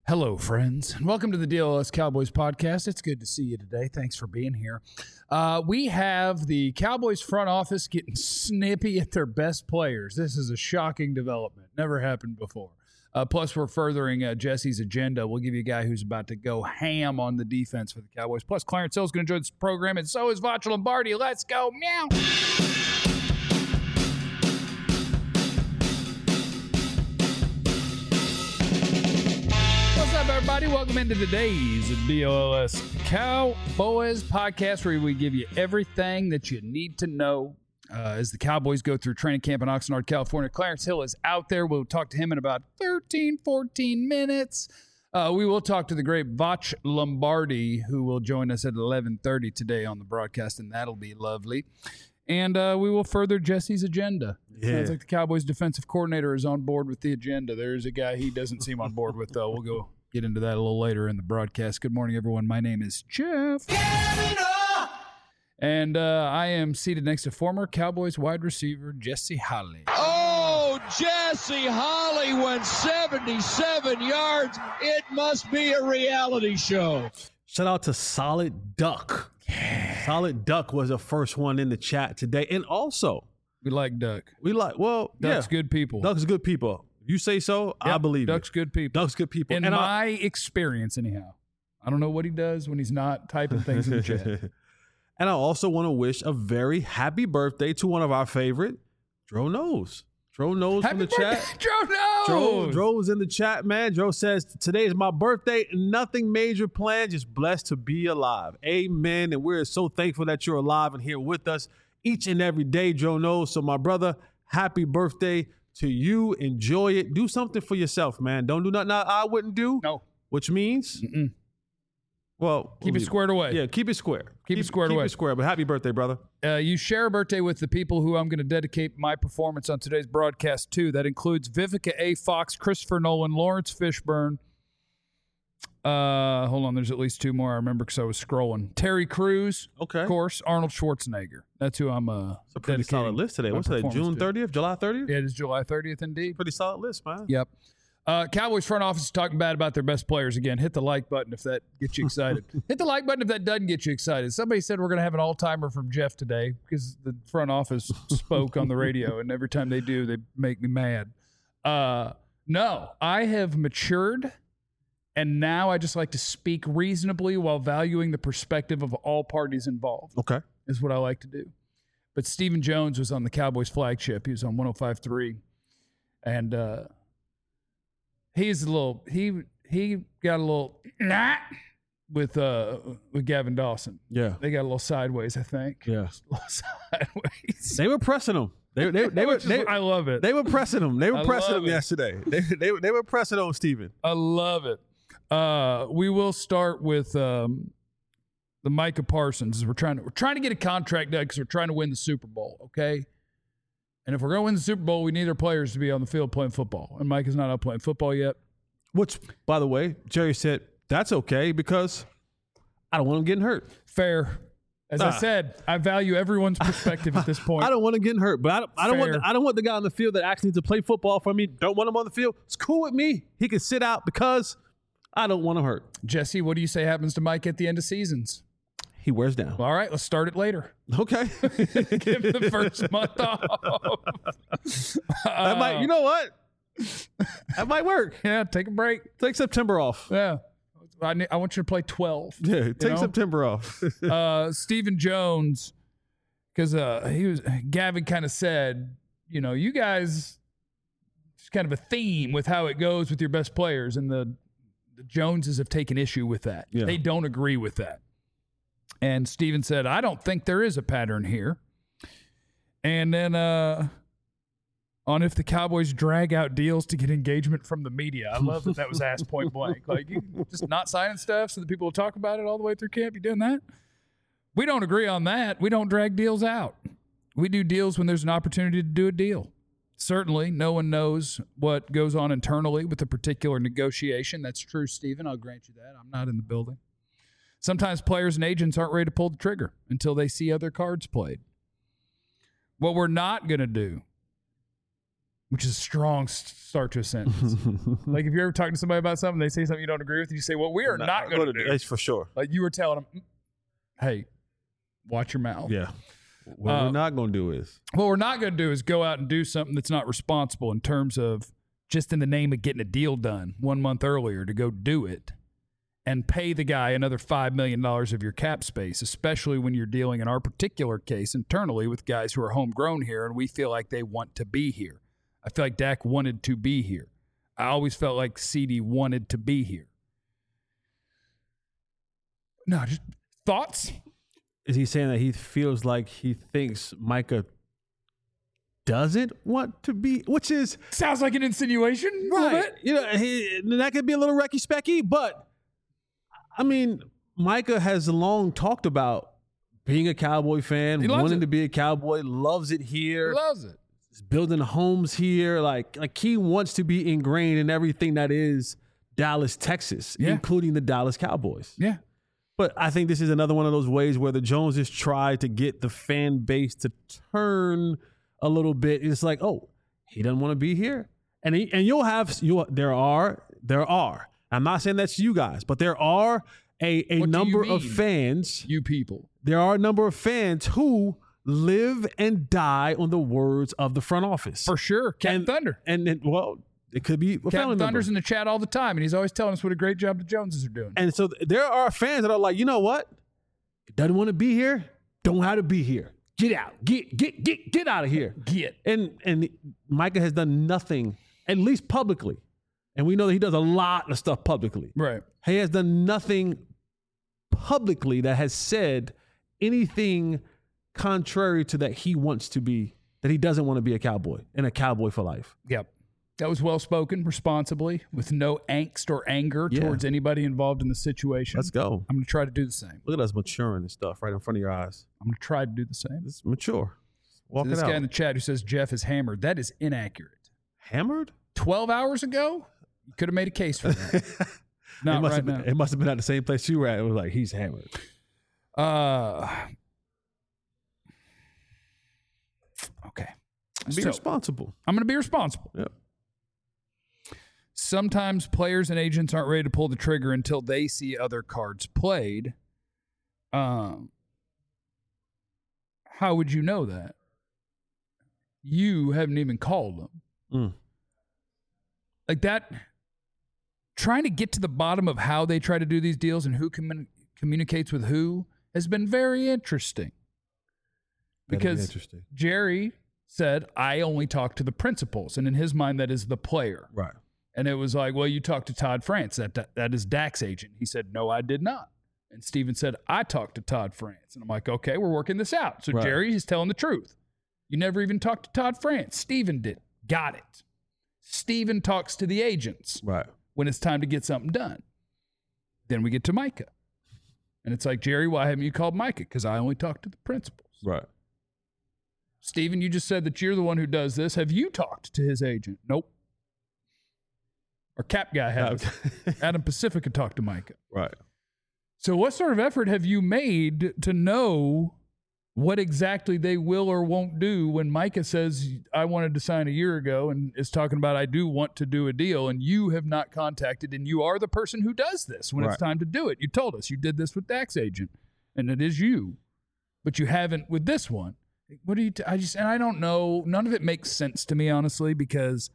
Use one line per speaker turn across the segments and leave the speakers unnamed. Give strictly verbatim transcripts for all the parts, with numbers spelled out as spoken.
Hello, friends, and welcome to the D L S Cowboys podcast. It's good to see you today. Thanks for being here. Uh, we have the Cowboys front office getting snippy at their best players. This is a shocking development. Never happened before. Uh, plus, we're furthering uh, Jesse's agenda. We'll give you a guy who's about to go ham on the defense for the Cowboys. Plus, Clarence Hill's going to join this program, and so is Vacha Lombardi. Let's go. Meow. What's up, everybody? Welcome into today's D L S Cowboys podcast, where we give you everything that you need to know uh, as the Cowboys go through training camp in Oxnard, California. Clarence Hill is out there. We'll talk to him in about thirteen, fourteen minutes. Uh, we will talk to the great Vacha Lombardi, who will join us at eleven thirty today on the broadcast, and that'll be lovely. And uh, we will further Jesse's agenda.
Yeah.
Sounds like the Cowboys defensive coordinator is on board with the agenda. There's a guy he doesn't seem on board with, though. We'll go get into that a little later in the broadcast. Good morning, everyone. My name is Jeff. And uh, I am seated next to former Cowboys wide receiver Jesse Holley.
Oh, Jesse Holley went seventy-seven yards. It must be a reality show.
Shout out to Solid Duck. Yeah. Solid Duck was the first one in the chat today. And also,
We like Duck.
we like, well,
Duck's
yeah.
good people.
Duck's good people. You say so, I
Yep,
believe
Duck's
it.
good people.
Duck's good people.
In
and
my
I,
experience, anyhow. I don't know what he does when he's not typing things in the chat.
And I also want to wish a very happy birthday to one of our favorite, Dro Knows. Dro Knows
Happy
from the
birthday,
chat.
Dro
Dro,
knows.
Dro's in the chat, man. Dro says, today is my birthday. Nothing major planned, just blessed to be alive. Amen. And we're so thankful that you're alive and here with us each and every day, Dro knows. So, my brother, happy birthday to you. Enjoy it. Do something for yourself, man. Don't do nothing I wouldn't do.
No.
Which means,
Mm-mm.
well,
Keep
we'll
it squared away.
Yeah, keep it square.
Keep it squared
keep
away.
Keep it square. But happy birthday, brother.
Uh, you share a birthday with the people who I'm going to dedicate my performance on today's broadcast to. That includes Vivica A. Fox, Christopher Nolan, Lawrence Fishburne. Uh, hold on, there's at least two more I remember because I was scrolling. Terry Crews,
Okay.
of course, Arnold Schwarzenegger. That's who I'm uh,
It's a pretty solid
dedicating
list today.
my
What's today?
performance
June
to.
thirtieth? July thirtieth?
Yeah, it is July thirtieth, indeed.
Pretty solid list, man.
Yep. Uh, Cowboys front office is talking bad about their best players again. Hit the like button if that gets you excited. Hit the like button if that doesn't get you excited. Somebody said we're going to have an all-timer from Jeff today because the front office spoke on the radio, and every time they do, they make me mad. Uh, no, I have matured, and now I just like to speak reasonably while valuing the perspective of all parties involved.
Okay.
Is what I like to do. But Stephen Jones was on the Cowboys flagship. He was on one oh five point three. And uh, he's a little, he he got a little nah with uh with Gavin Dawson.
Yeah.
They got a little sideways, I think.
Yeah.
Just a little sideways.
They were pressing him. They, they, they were
Which is-
they,
I love it.
they were pressing him. They were
I
pressing
love
him
it.
yesterday. They, they, they were pressing on Steven.
I love it. Uh, we will start with um, the Micah Parsons. We're trying to we're trying to get a contract done because we're trying to win the Super Bowl. Okay. And if we're going to win the Super Bowl, we need our players to be on the field playing football. And Mike is not out playing football yet.
Which, by the way, Jerry said, that's okay because I don't want him getting hurt.
Fair. As I
Ah.
said, I value everyone's perspective at this point.
I don't want him getting hurt, but I don't, I don't want
Fair.
the, I don't want the guy on the field that actually needs to play football for me. Don't want him on the field. It's cool with me. He can sit out because I don't want him hurt.
Jesse, what do you say happens to Mike at the end of seasons?
He wears down.
All right, let's start it later.
Okay.
Give him the first month off.
that might, you know what? That might work.
Yeah, take a break.
Take September off.
Yeah. I, need, I want you to play twelve.
Yeah, take
know?
September off.
uh, Stephen Jones, because uh, he was Gavin kind of said, you know, you guys, it's kind of a theme with how it goes with your best players, and the, the Joneses have taken issue with that.
Yeah.
They don't agree with that. And Stephen said, I don't think there is a pattern here. And then uh, on if the Cowboys drag out deals to get engagement from the media. I love that that was asked point blank. Like, you just not signing stuff so that people will talk about it all the way through camp. You doing that? We don't agree on that. We don't drag deals out. We do deals when there's an opportunity to do a deal. Certainly, no one knows what goes on internally with a particular negotiation. That's true, Stephen. I'll grant you that. I'm not in the building. Sometimes players and agents aren't ready to pull the trigger until they see other cards played. What we're not going to do which is a strong s- start to a sentence. Like if you're ever talking to somebody about something, they say something you don't agree with, you say, well, we are
Not,
not going to do.
That's for sure.
Like you were telling them, hey, watch your mouth.
Yeah. What
Uh,
we're not going to do is.
What we're not going to do is go out and do something that's not responsible in terms of just in the name of getting a deal done one month earlier to go do it and pay the guy another five million dollars of your cap space, especially when you're dealing in our particular case internally with guys who are homegrown here and we feel like they want to be here. I feel like Dak wanted to be here. I always felt like C D wanted to be here. No, just thoughts?
Is he saying that he feels like he thinks Micah doesn't want to be, which is
Sounds like an insinuation. A little bit.
You know, he, that could be a little recky specky, but I mean, Micah has long talked about being a Cowboy fan,
He loves
wanting
it.
to be a Cowboy, loves it
He
here,
loves it.
building homes here. Like, like he wants to be ingrained in everything that is Dallas, Texas,
Yeah.
including the Dallas Cowboys.
Yeah.
But I think this is another one of those ways where the Joneses try to get the fan base to turn a little bit. It's like, oh, he doesn't want to be here, and he, and you'll have you. There are there are. I'm not saying that's you guys, but there are a a
What do you
number of
mean?
fans.
You people.
There are a number of fans who live and die on the words of the front office.
For sure. Captain
And-
Thunder.
And then, well, it could be a family
Captain
member.
Thunder's in the chat all the time, and he's always telling us what a great job the Joneses are doing.
And so th- there are fans that are like, you know what? Doesn't want to be here. Don't have to be here. Get out. Get get get get out of here.
Get.
And and Micah has done nothing, at least publicly. And we know that he does a lot of stuff publicly.
Right.
He has done nothing publicly that has said anything contrary to that he wants to be, that he doesn't want to be a Cowboy and a Cowboy for life.
Yep. That was well spoken, responsibly, with no angst or anger
Yeah.
towards anybody involved in the situation.
Let's go.
I'm going to try to do the same.
Look at us maturing and stuff right in front of your eyes.
I'm going to try to do the same.
It's mature. Walk
So this
it
guy
out.
in the chat who says Jeff is hammered, that is inaccurate.
Hammered?
twelve hours ago, you could have made a case for that.
it
Not
must
right
have been,
now.
It must have been at the same place you were at. It was like, he's hammered.
Uh, okay.
Be
So,
responsible.
I'm going to be responsible.
Yep.
Sometimes players and agents aren't ready to pull the trigger until they see other cards played. Um, how would you know that? You haven't even called them.
Mm.
Like that, trying to get to the bottom of how they try to do these deals and who commun- communicates with who has been very interesting.
That'd be
Because
interesting.
Jerry said, I only talk to the principals. And in his mind, that is the player.
Right.
And it was like, well, you talked to Todd France. That, that that is Dak's agent. He said, no, I did not. And Steven said, I talked to Todd France. And I'm like, okay, we're working this out. So
Right.
Jerry is telling the truth. You never even talked to Todd France. Steven did. Got it. Steven talks to the agents
Right.
when it's time to get something done. Then we get to Micah. And it's like, Jerry, why haven't you called Micah? Because I only talk to the principals.
Right.
Steven, you just said that you're the one who does this. Have you talked to his agent? Nope. Our cap guy has. Adam Pacifica talked to Micah.
Right.
So what sort of effort have you made to know what exactly they will or won't do when Micah says, I wanted to sign a year ago and is talking about, I do want to do a deal, and you have not contacted, and you are the person who does this when
Right.
it's time to do it. You told us you did this with Dak's agent, and it is you, but you haven't with this one. What do you, t- I just, and I don't know, none of it makes sense to me, honestly, because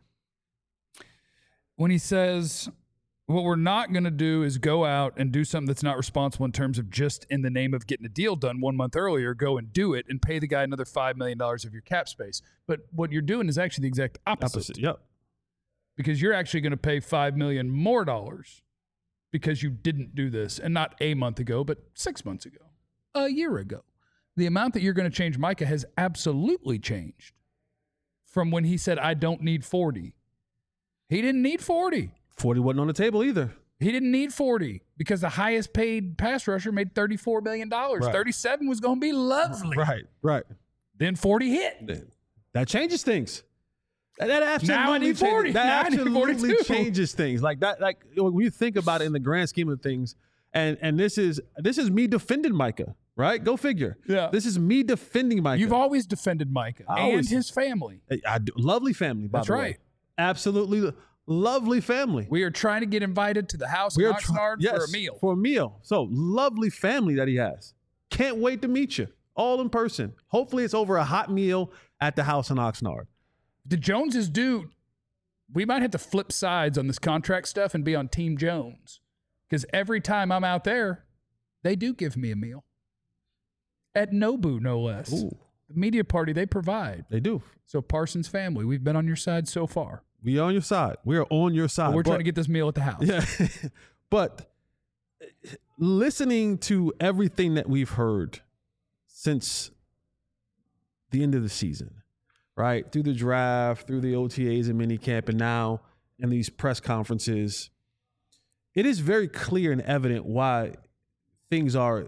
when he says, what we're not going to do is go out and do something that's not responsible in terms of just in the name of getting a deal done one month earlier, go and do it and pay the guy another five million dollars of your cap space. But what you're doing is actually the exact opposite,
Opposite. Yep.
because you're actually going to pay five million dollars more dollars because you didn't do this, and not a month ago, but six months ago, a year ago. The amount that you're going to change Micah has absolutely changed from when he said, I don't need forty. He didn't need forty.
forty wasn't on the table either.
He didn't need forty because the highest paid pass rusher made thirty-four million dollars.
Right.
thirty-seven was going to be lovely.
Right. Right.
Then forty hit.
That changes things. That, that absolutely
Now I need forty.
changes, that
Now I need
absolutely
forty-two.
changes things. Like that. Like when you think about it in the grand scheme of things, And and this is this is me defending Micah, right? Go figure.
Yeah.
This is me defending Micah.
You've always defended Micah
I
and
always-
his family.
I, I do, lovely family, by
That's
the way.
right.
Absolutely lovely family.
We are trying to get invited to the house
We
in
are try-
Oxnard
yes,
for a meal.
For a meal. So lovely family that he has. Can't wait to meet you all in person. Hopefully it's over a hot meal at the house in Oxnard.
The Joneses do. We might have to flip sides on this contract stuff and be on Team Jones. Because every time I'm out there, they do give me a meal. At Nobu, no less.
Ooh,
The media party they provide.
they do.
So Parsons family, we've been on your side so far.
We are on your side. We are on your side.
But we're
But-
trying to get this meal at the house.
Yeah. But listening to everything that we've heard since the end of the season, right? Through the draft, through the O T As and minicamp, and now in these press conferences, it is very clear and evident why things are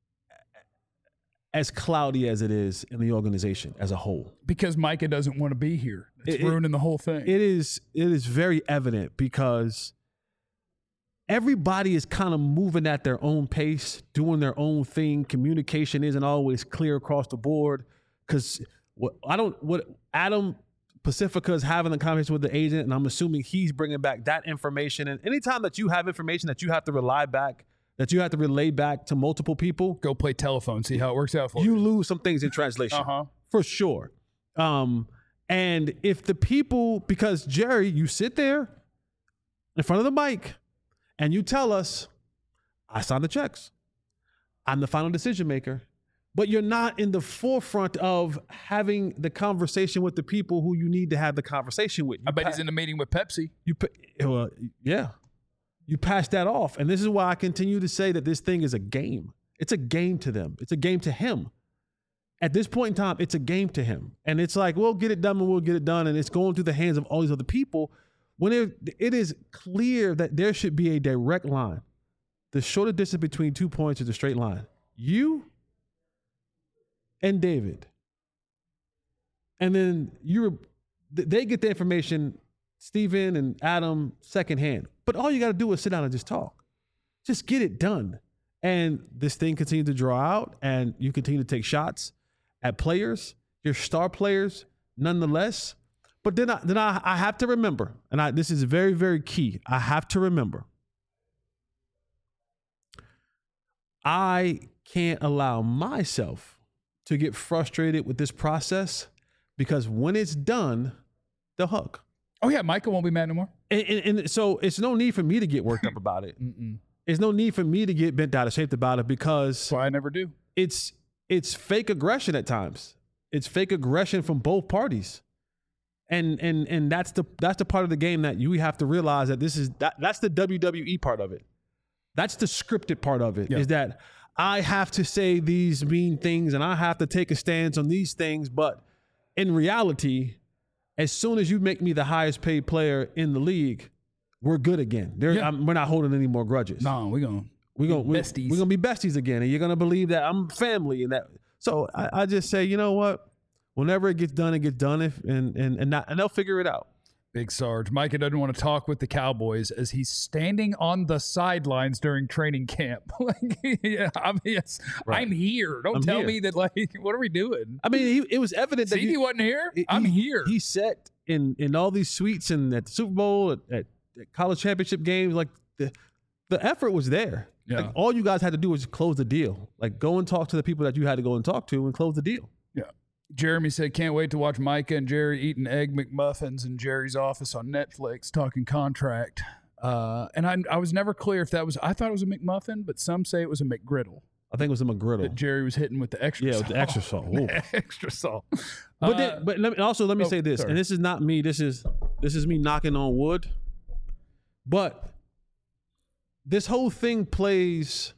as cloudy as it is in the organization as a whole.
Because Micah doesn't want to be here. It's
It- it-
ruining the whole thing.
It is it is very evident because everybody is kind of moving at their own pace, doing their own thing. Communication isn't always clear across the board because what I don't what Adam Pacifica is having a conversation with the agent, and I'm assuming he's bringing back that information. And anytime that you have information that you have to rely back, that you have to relay back to multiple people,
Go play telephone, see how it works out for you.
you lose some things in translation.
Uh-huh.
For sure. Um, and if the people, because Jerry, you sit there in front of the mic and you tell us, I signed the checks. I'm the final decision maker. But you're not in the forefront of having the conversation with the people who you need to have the conversation with. You
I bet
pa-
he's in a meeting with Pepsi.
you pa- well, yeah. You pass that off. And this is why I continue to say that this thing is a game. It's a game to them. It's a game to him. At this point in time, it's a game to him. And it's like, we'll get it done and we'll get it done. And it's going through the hands of all these other people when it, it is clear that there should be a direct line. The shorter distance between two points is a straight line. You and David. And then you they get the information, Steven and Adam, secondhand. But all you got to do is sit down and just talk. Just get it done. And this thing continues to draw out, and you continue to take shots at players, your star players, nonetheless. But then I, then I, I have to remember, and I, this is very, very key. I have to remember, I can't allow myself to get frustrated with this process because when it's done, they'll hug.
Oh, yeah, Micah won't be mad no more.
And, and, and so it's no need for me to get worked up about it.
Mm-mm.
There's no need for me to get bent out of shape about it because
That's why I never do.
it's it's fake aggression at times. It's fake aggression from both parties. And and and that's the that's the part of the game that you have to realize that this is that that's the W W E part of it. That's the scripted part of it.
Yeah.
Is that I have to say these mean things and I have to take a stance on these things, but in reality, as soon as you make me the highest paid player in the league, we're good again. There,
Yeah.
I'm, we're not holding any more grudges.
No, we're going
We're gonna we're,
besties.
we're gonna be besties again, and you're gonna believe that I'm family and that. So I, I just say, you know what? Whenever it gets done, it gets done, if, and and and, not, and they'll figure it out.
Big Sarge. Micah doesn't want to talk with the Cowboys as he's standing on the sidelines during training camp. like, yeah, I mean, yes,
Right.
I'm here. Don't
I'm
tell
here.
me that, like, what are we doing?
I mean, he, it was evident that
See, he
he,
wasn't here.
he-
I'm
he-
here.
He sat in in all these suites and at the Super Bowl, at, at, at college championship games. Like the the effort was there.
Yeah.
Like, all you guys had to do was close the deal. Like go and talk to the people that you had to go and talk to and close the deal.
Yeah. Jeremy said, can't wait to watch Micah and Jerry eating egg McMuffins in Jerry's office on Netflix talking contract. Uh, and I, I was never clear if that was, I thought it was a McMuffin, but some say it was a McGriddle
I think it was a
that
McGriddle.
Jerry was hitting with the extra
Yeah,
salt.
with the extra salt. Ooh.
extra salt.
But
Uh,
then, but let me, also let me
oh,
say this,
sorry.
and this is not me. This is this is me knocking on wood. But this whole thing plays.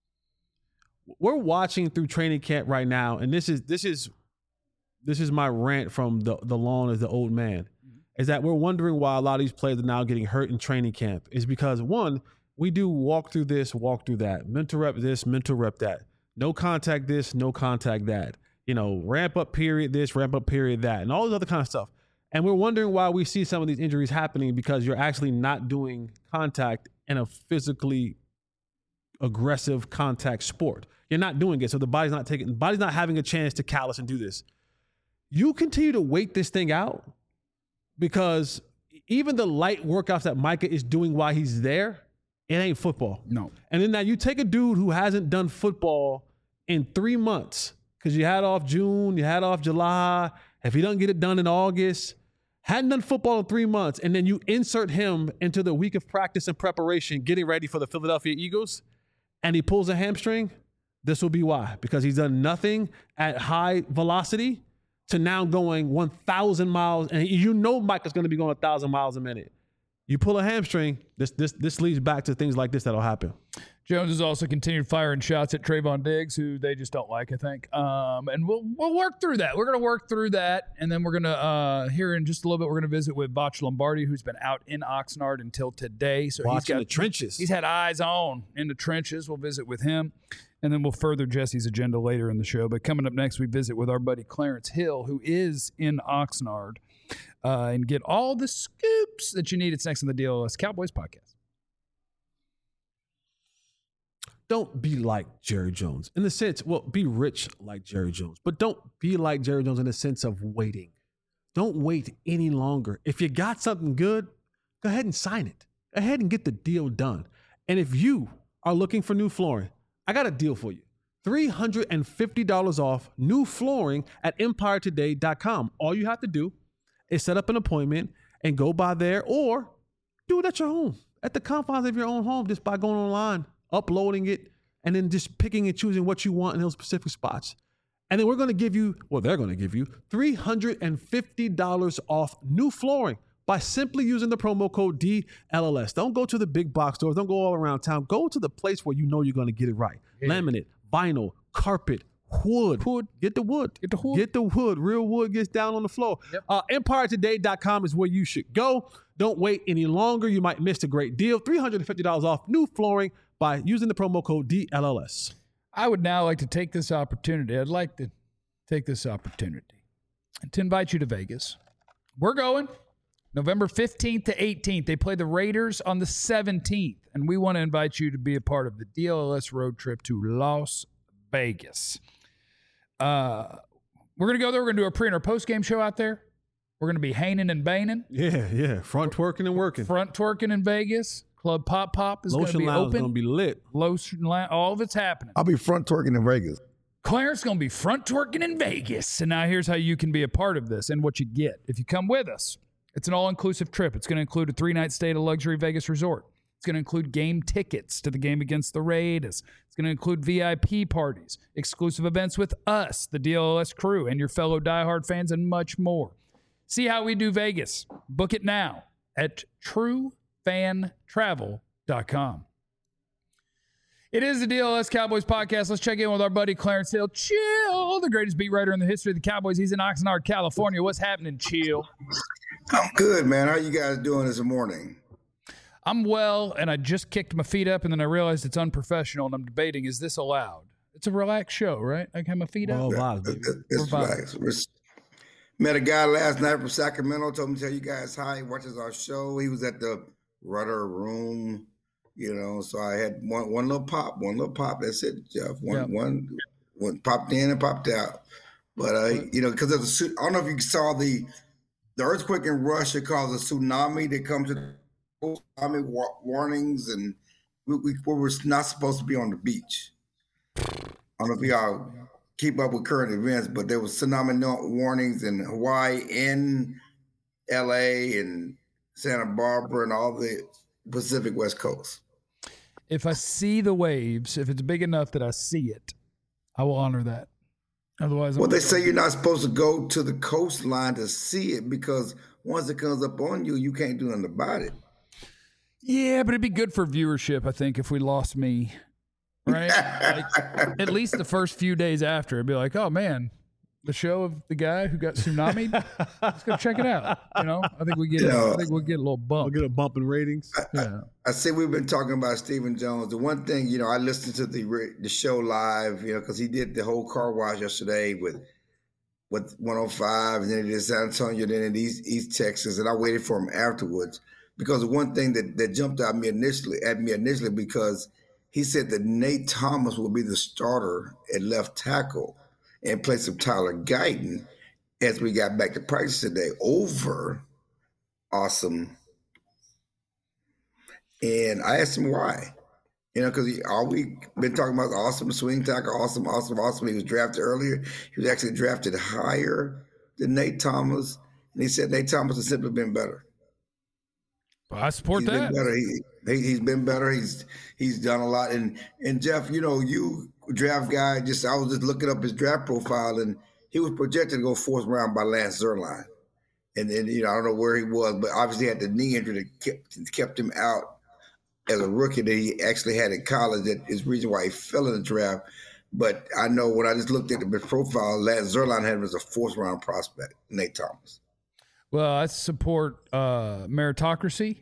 We're watching through training camp right now, and this is this is this is my rant from the the lawn as the old man. Is that we're wondering why a lot of these players are now getting hurt in training camp? Is because one, we do walk through this, walk through that, mental rep this, mental rep that, no contact this, no contact that. You know, ramp up period this, ramp up period that, and all this other kind of stuff. And we're wondering why we see some of these injuries happening because you're actually not doing contact in a physically aggressive contact sport. You're not doing it, so the body's not taking, the body's not having a chance to callous and do this. You continue to wait this thing out because even the light workouts that Micah is doing while he's there, it ain't football.
No.
And then now you take a dude who hasn't done football in three months because you had off June, you had off July. If he doesn't get it done in August, hadn't done football in three months, and then you insert him into the week of practice and preparation, getting ready for the Philadelphia Eagles, and he pulls a hamstring, this will be why. Because he's done nothing at high velocity to now going one thousand miles, and you know Micah's going to be going one thousand miles a minute. You pull a hamstring, this this this leads back to things like this that'll happen.
Jones has also continued firing shots at Trayvon Diggs, who they just don't like, I think. Um, and we'll we'll work through that. We're going to work through that, and then we're going to, uh, here in just a little bit, we're going to visit with Botch Lombardi, who's been out in Oxnard until today. So
Watching
he's got
the trenches.
He's had eyes on in the trenches. We'll visit with him, and then we'll further Jesse's agenda later in the show. But coming up next, we visit with our buddy Clarence Hill, who is in Oxnard, uh, and get all the scoops that you need. It's next on the D L S Cowboys podcast.
Don't be like Jerry Jones in the sense, well, be rich like Jerry Jones, but don't be like Jerry Jones in the sense of waiting. Don't wait any longer. If you got something good, go ahead and sign it. Go ahead and get the deal done. And if you are looking for new flooring, I got a deal for you. three hundred fifty dollars off new flooring at empire today dot com. All you have to do is set up an appointment and go by there, or do it at your home, at the confines of your own home, just by going online, uploading it, and then just picking and choosing what you want in those specific spots. And then we're going to give you, well, they're going to give you three hundred fifty dollars off new flooring by simply using the promo code D L L S. Don't go to the big box stores. Don't go all around town. Go to the place where you know you're going to get it right. Yeah. Laminate, vinyl, carpet, wood. Wood. Get the wood. Get the wood. Get the wood. Real wood gets down on the floor. Yep. Uh, empire today dot com is where you should go. Don't wait any longer. You might miss a great deal. three hundred fifty dollars off new flooring by using the promo code D L L S.
I would now like to take this opportunity. I'd like to take this opportunity to invite you to Vegas. We're going November fifteenth to eighteenth. They play the Raiders on the seventeenth, and we want to invite you to be a part of the D L L S road trip to Las Vegas. Uh, we're going to go there. We're going to do a pre and our post-game show out there. We're going to be haining and baining.
Yeah, yeah. Front twerking and working.
Front twerking in Vegas. Club Pop Pop is going to be open.
Lotion Lounge is going to be lit.
Lotion Lounge, all of it's happening.
I'll be front twerking in Vegas.
Clarence going to be front twerking in Vegas. And now here's how you can be a part of this and what you get. If you come with us, it's an all-inclusive trip. It's going to include a three-night stay at a luxury Vegas resort. It's going to include game tickets to the game against the Raiders. It's going to include V I P parties, exclusive events with us, the D L L S crew, and your fellow diehard fans, and much more. See how we do Vegas. Book it now at true fan travel dot com. It is the D L S Cowboys podcast. Let's check in with our buddy Clarence Hill. Chill, the greatest beat writer in the history of the Cowboys. He's in Oxnard, California. What's happening, Chill?
I'm good, man. How you guys doing this morning?
I'm well, and I just kicked my feet up, and then I realized it's unprofessional, and I'm debating, is this allowed? It's a relaxed show, right? I have my feet up.
Oh, wow.
It's relaxed. Met a guy last night from Sacramento, told me to tell you guys hi. He watches our show. He was at the Rudder Room, you know, so I had one one little pop, one little pop. That's it, Jeff. One, yep. one, one popped in and popped out. But, uh, you know, because there's a, I don't know if you saw the the earthquake in Russia caused a tsunami that comes to tsunami warnings, and we, we, we were not supposed to be on the beach. I don't know if y'all keep up with current events, but there was tsunami warnings in Hawaii, in L A, and Santa Barbara, and all the Pacific West Coast.
If I see the waves, if it's big enough that I see it, I will honor that. Otherwise,
well, they say you're not supposed to go to the coastline to see it because once it comes up on you, you can't do nothing about it.
Yeah, but it'd be good for viewership, I think, if we lost me, right? Like, at least the first few days after, it'd be like, oh, man, the show of the guy who got tsunami'd, let's go check it out. You know, I think we get, you know, I think we'll get a little bump.
We'll get a bump in ratings.
I, yeah. I, I see we've been talking about Stephen Jones. The one thing, you know, I listened to the the show live, you know, because he did the whole car wash yesterday with with one oh five, and then he did San Antonio, then in East, East Texas, and I waited for him afterwards. Because the one thing that, that jumped at me initially, at me initially, because he said that Nate Thomas will be the starter at left tackle in place of Tyler Guyton as we got back to practice today over Awesome. And I asked him why. You know, because all we been talking about Awesome, swing tackle, awesome, awesome, awesome. He was drafted earlier. He was actually drafted higher than Nate Thomas. And he said Nate Thomas has simply been better.
Well, I support
he's
that.
Been better. He, he, he's been better. He's he's done a lot. And and Jeff, you know, you draft guy, just I was just looking up his draft profile, and he was projected to go fourth round by Lance Zierlein. And then, you know, I don't know where he was, but obviously he had the knee injury that kept, kept him out as a rookie that he actually had in college. That is the reason why he fell in the draft. But I know when I just looked at the profile, Lance Zierlein had him as a fourth round prospect, Nate Thomas.
Well, I support uh, meritocracy.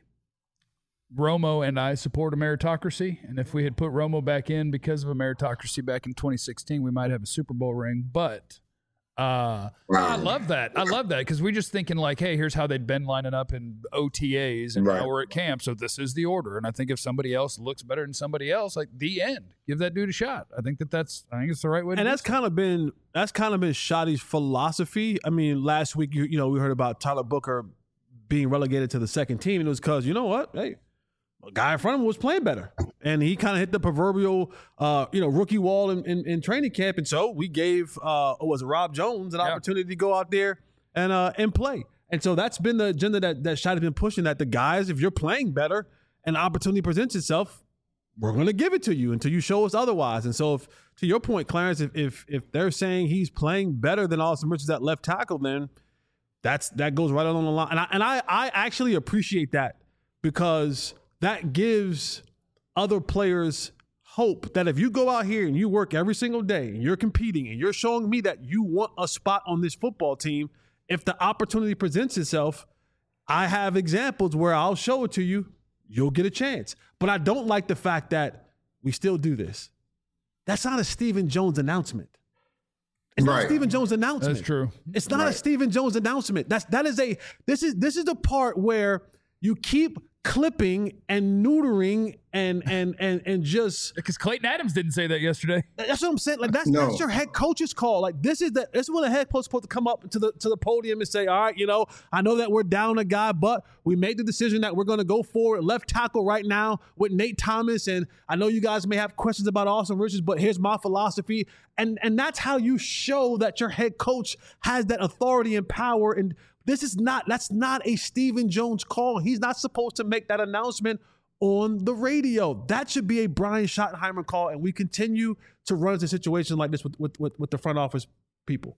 Romo and I support a meritocracy. And if we had put Romo back in because of a meritocracy back in twenty sixteen, we might have a Super Bowl ring. But uh, wow. I love that. I love that because we're just thinking like, hey, here's how they'd been lining up in O T As and right. now we're at camp. So this is the order. And I think if somebody else looks better than somebody else, like the end, give that dude a shot. I think that that's, I think it's the right way to
And
do
that's
it.
kind of been, that's kind of been Shotty's philosophy. I mean, last week, you, you know, we heard about Tyler Booker being relegated to the second team. And it was because, you know what? Hey, a guy in front of him was playing better. And he kind of hit the proverbial, uh, you know, rookie wall in, in, in training camp. And so we gave, uh, was it Rob Jones, an yeah. opportunity to go out there and uh, and play. And so that's been the agenda that, that Shotty's been pushing, that the guys, if you're playing better and opportunity presents itself, we're going to give it to you until you show us otherwise. And so if, to your point, Clarence, if, if if they're saying he's playing better than Austin Richards at left tackle, then that's that goes right on the line. And I, and I, I actually appreciate that because that gives other players hope that if you go out here and you work every single day and you're competing and you're showing me that you want a spot on this football team, if the opportunity presents itself, I have examples where I'll show it to you, you'll get a chance. But I don't like the fact that we still do this. That's not a Stephen Jones announcement. It's right. not a Stephen Jones announcement.
That's true.
It's not
right.
a Stephen Jones announcement. That's that is a this is this is the part where you keep clipping and neutering and and and and just
because Clayton Adams didn't say that yesterday.
That's what I'm saying. Like that's
no.
that's your head coach's call. Like this is the this is when the head coach is supposed to come up to the to the podium and say, all right, you know, I know that we're down a guy, but we made the decision that we're going to go forward left tackle right now with Nate Thomas. And I know you guys may have questions about Austin Richards, but here's my philosophy. And and that's how you show that your head coach has that authority and power. And this is not, that's not a Stephen Jones call. He's not supposed to make that announcement on the radio. That should be a Brian Schottenheimer call, and we continue to run into situations like this with with, with, with the front office people.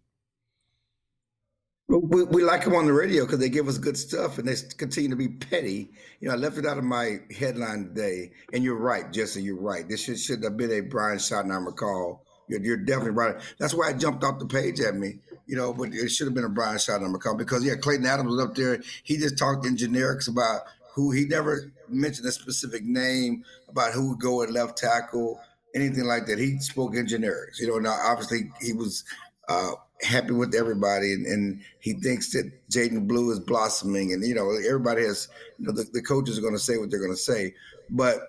We, we like them on the radio because they give us good stuff and they continue to be petty. You know, I left it out of my headline today, and you're right, Jesse, you're right. This should, should have been a Brian Schottenheimer call. You're, you're definitely right. That's why it jumped off the page at me. You know, but it should have been a Brian Schottenheimer call because, yeah, Clayton Adams was up there. He just talked in generics about who he never mentioned a specific name about who would go at left tackle, anything like that. He spoke in generics. You know, now obviously he was uh, happy with everybody, and, and he thinks that Jaden Blue is blossoming. And, you know, everybody has, you know, the, the coaches are going to say what they're going to say. But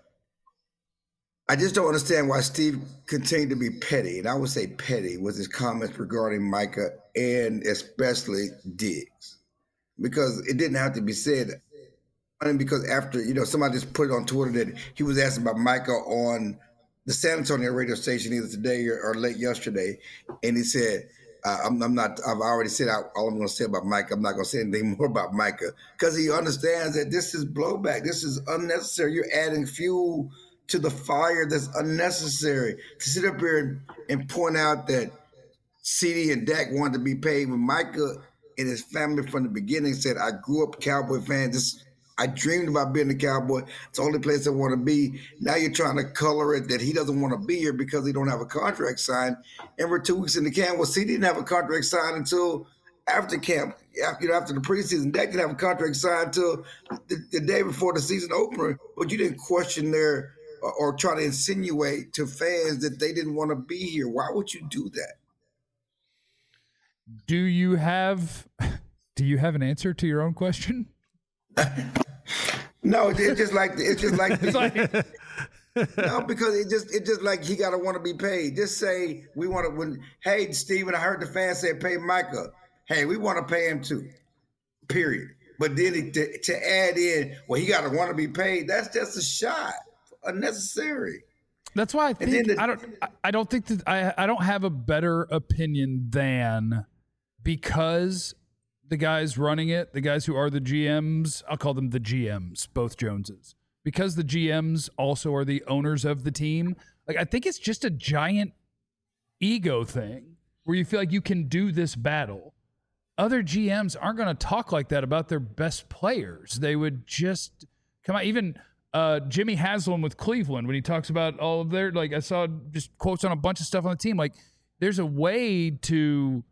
I just don't understand why Steve continued to be petty, and I would say petty, with his comments regarding Micah and especially Diggs, because it didn't have to be said. I mean, because after, you know, somebody just put it on Twitter that he was asked about Micah on the San Antonio radio station either today or, or late yesterday, and he said, uh, I'm, I'm not, I've already said all I'm going to say about Micah. I'm not going to say anything more about Micah, because he understands that this is blowback. This is unnecessary. You're adding fuel to the fire that's unnecessary. To sit up here and, and point out that C D and Dak wanted to be paid when Micah and his family from the beginning said, I grew up a Cowboy fan. This, I dreamed about being a Cowboy. It's the only place I want to be. Now you're trying to color it that he doesn't want to be here because he don't have a contract signed. And we're two weeks in the camp. Well, C D didn't have a contract signed until after camp, after, you know, after the preseason. Dak didn't have a contract signed until the, the day before the season opener. But you didn't question their or try to insinuate to fans that they didn't want to be here. Why would you do that?
Do you have do you have an answer to your own question?
No, it's just like it's just like,
it's like
No, because it just it just like he gotta want to be paid. Just say we want to when hey Steven, I heard the fans say pay Micah. Hey, we want to pay him too. Period. But then it, to, to add in, well, he gotta want to be paid, that's just a shot. Unnecessary.
That's why I think
the,
I don't I don't think that I I don't have a better opinion than because the guys running it, the guys who are the G Ms, I'll call them the G Ms, both Joneses. Because the G Ms also are the owners of the team, like I think it's just a giant ego thing where you feel like you can do this battle. Other G Ms aren't going to talk like that about their best players. They would just come out. Even uh, Jimmy Haslam with Cleveland, when he talks about all of their, like I saw just quotes on a bunch of stuff on the team. Like there's a way to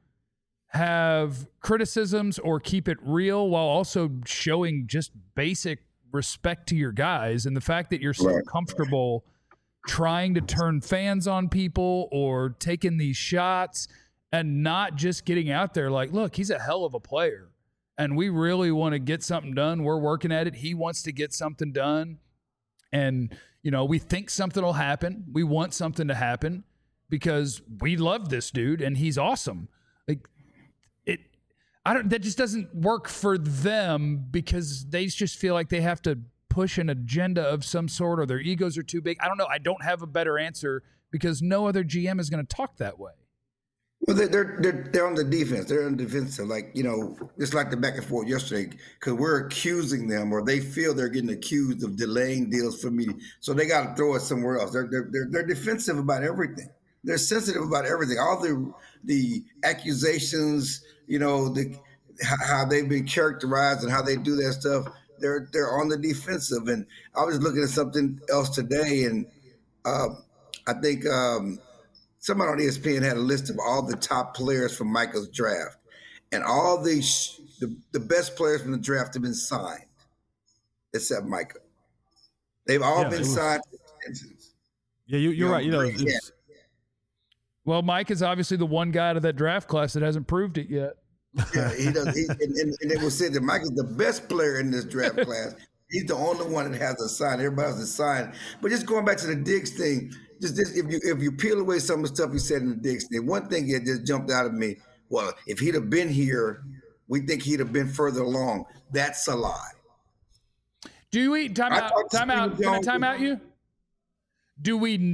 have criticisms or keep it real while also showing just basic respect to your guys, and the fact that you're so
right.
comfortable trying to turn fans on people or taking these shots and not just getting out there like, look, he's a hell of a player and we really want to get something done. We're working at it. He wants to get something done. And, you know, we think something will happen. We want something to happen because we love this dude and he's awesome. Like it, I don't, that just doesn't work for them because they just feel like they have to push an agenda of some sort or their egos are too big. I don't know. I don't have a better answer because no other G M is going to talk that way.
Well, they're, they're they're they're on the defense. They're on the defensive, like you know, just like the back and forth yesterday, because we're accusing them, or they feel they're getting accused of delaying deals for me, so they got to throw it somewhere else. They're they're they're, they're defensive about everything. They're sensitive about everything. All the the accusations, you know, the how they've been characterized and how they do that stuff. They're they're on the defensive. And I was looking at something else today, and uh, I think. Um, Somebody on E S P N had a list of all the top players from Micah's draft, and all the, the the best players from the draft have been signed, except Micah. They've all
yeah,
been
was,
signed.
Yeah, you, you're you know, right. You know,
yeah.
Well, Mike is obviously the one guy out of that draft class that hasn't proved it yet.
Yeah, he does. He, and, and, and it was said that Micah's the best player in this draft class. He's the only one that has a sign. Everybody else is signed. But just going back to the Diggs thing. Just this, if you if you peel away some of the stuff he said in the Diggs thing, one thing that just jumped out at me. Well, if he'd have been here, we think he'd have been further along. That's a lie.
Do we time out? Time out. Can I time out you? Do we?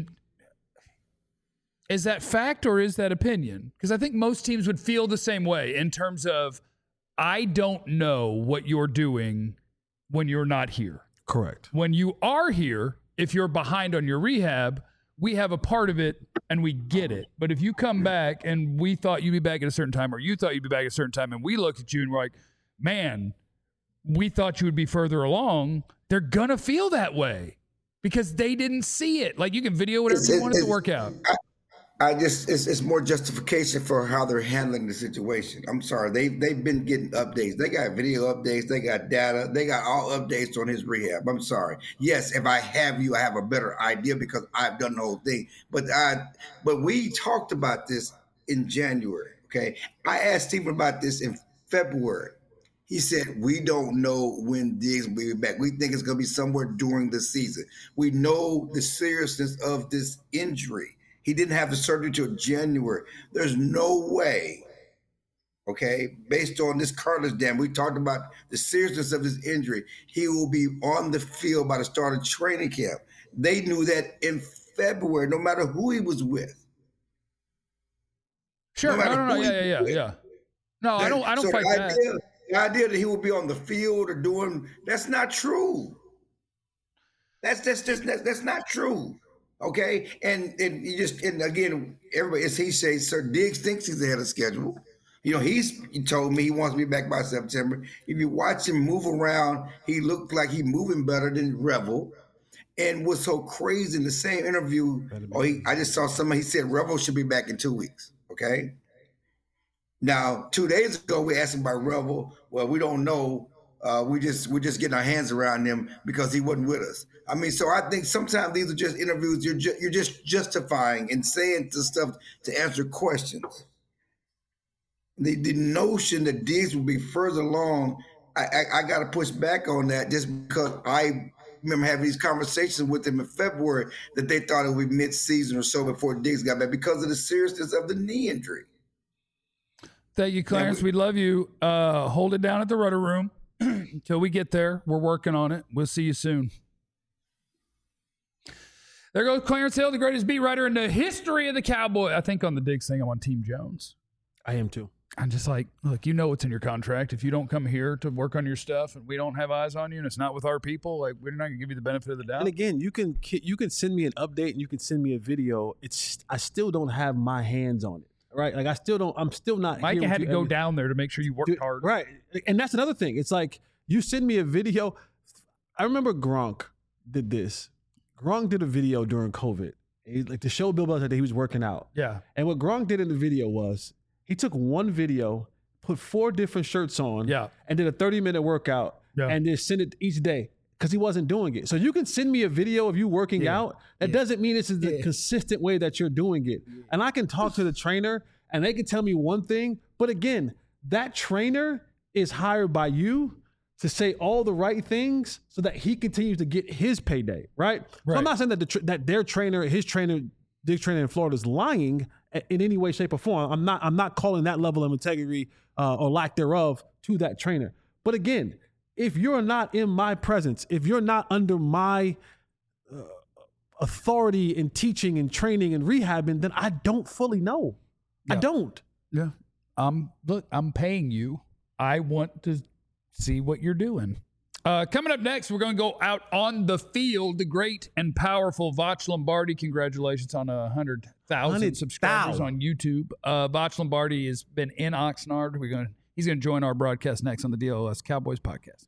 Is that fact or is that opinion? Because I think most teams would feel the same way in terms of, I don't know what you're doing when you're not here.
Correct. When
you are here, if you're behind on your rehab, we have a part of it and we get it. But if you come back and we thought you'd be back at a certain time or you thought you'd be back at a certain time and we looked at you and we're like, man, we thought you would be further along, they're going to feel that way because they didn't see it. Like you can video whatever
it's,
you
it,
want it to work out.
I, I just, it's, it's more justification for how they're handling the situation. I'm sorry. They, they've been getting updates. They got video updates. They got data. They got all updates on his rehab. I'm sorry. Yes, if I have you, I have a better idea because I've done the whole thing. But I, but we talked about this in January, okay? I asked Stephen about this in February. He said, we don't know when Diggs will be back. We think it's going to be somewhere during the season. We know the seriousness of this injury. He didn't have the surgery till January. There's no way, okay, based on this cartilage damage, we talked about the seriousness of his injury, he will be on the field by the start of training camp. They knew that in February, no matter who he was with.
Sure, no, no, no, no. yeah, yeah, yeah, yeah. No, that, I don't, I don't so fight
the
that.
Idea, the idea that he will be on the field or doing, that's not true. That's, that's, just, that's, that's not true. Okay, and and you just and again, everybody, as he says, Sir Diggs thinks he's ahead of schedule. You know, he's he told me he wants to be back by September. If you watch him move around, he looked like he's moving better than Revel. And what's so crazy in the same interview, oh, he, I just saw somebody, he said Revel should be back in two weeks. Okay. Now, two days ago, we asked him about Revel. Well, we don't know. Uh, we just we're just getting our hands around him because he wasn't with us. I mean, so I think sometimes these are just interviews. You're ju- you're just justifying and saying the stuff to answer questions. The the notion that Diggs will be further along, I I, I got to push back on that just because I remember having these conversations with him in February that they thought it would be mid-season or so before Diggs got back because of the seriousness of the knee injury.
Thank you, Clarence. We, we love you. Uh, hold it down at the Rudder Room until we get there. We're working on it. We'll see you soon. There goes Clarence Hill, the greatest beat writer in the history of the Cowboy. I think on the Diggs thing, I'm on Team Jones.
I am too.
I'm just like, look, you know what's in your contract. If you don't come here to work on your stuff and we don't have eyes on you and it's not with our people, like we're not going to give you the benefit of the doubt.
And again, you can you can send me an update and you can send me a video. It's I still don't have my hands on it, right? Like I still don't. I'm still not.
Mike had to go
every,
down there to make sure you worked
dude,
hard,
right? And that's another thing. It's like you send me a video. I remember Gronk did this. Gronk did a video during COVID, he, like to show Bill Belichick that he was working out.
Yeah.
And what Gronk did in the video was he took one video, put four different shirts on,
yeah,
and did a thirty minute workout,
yeah,
and just send it each day because he wasn't doing it. So you can send me a video of you working
yeah.
out. That
yeah.
doesn't mean this is the
yeah.
consistent way that you're doing it. Yeah. And I can talk to the trainer and they can tell me one thing, but again, that trainer is hired by you to say all the right things so that he continues to get his payday, right?
right.
So I'm not saying that the tra- that their trainer, his trainer, Dick trainer in Florida is lying in any way, shape, or form. I'm not. I'm not calling that level of integrity uh, or lack thereof to that trainer. But again, if you're not in my presence, if you're not under my uh, authority in teaching and training and rehabbing, then I don't fully know.
Yeah.
I don't.
Yeah. Um. Look, I'm paying you. I want to see what you're doing. Uh, coming up next, we're going to go out on the field. The great and powerful Voch Lombardi. Congratulations on a hundred thousand subscribers on YouTube. Uh, Voch Lombardi has been in Oxnard. We're going. He's going to join our broadcast next on the D L S Cowboys podcast.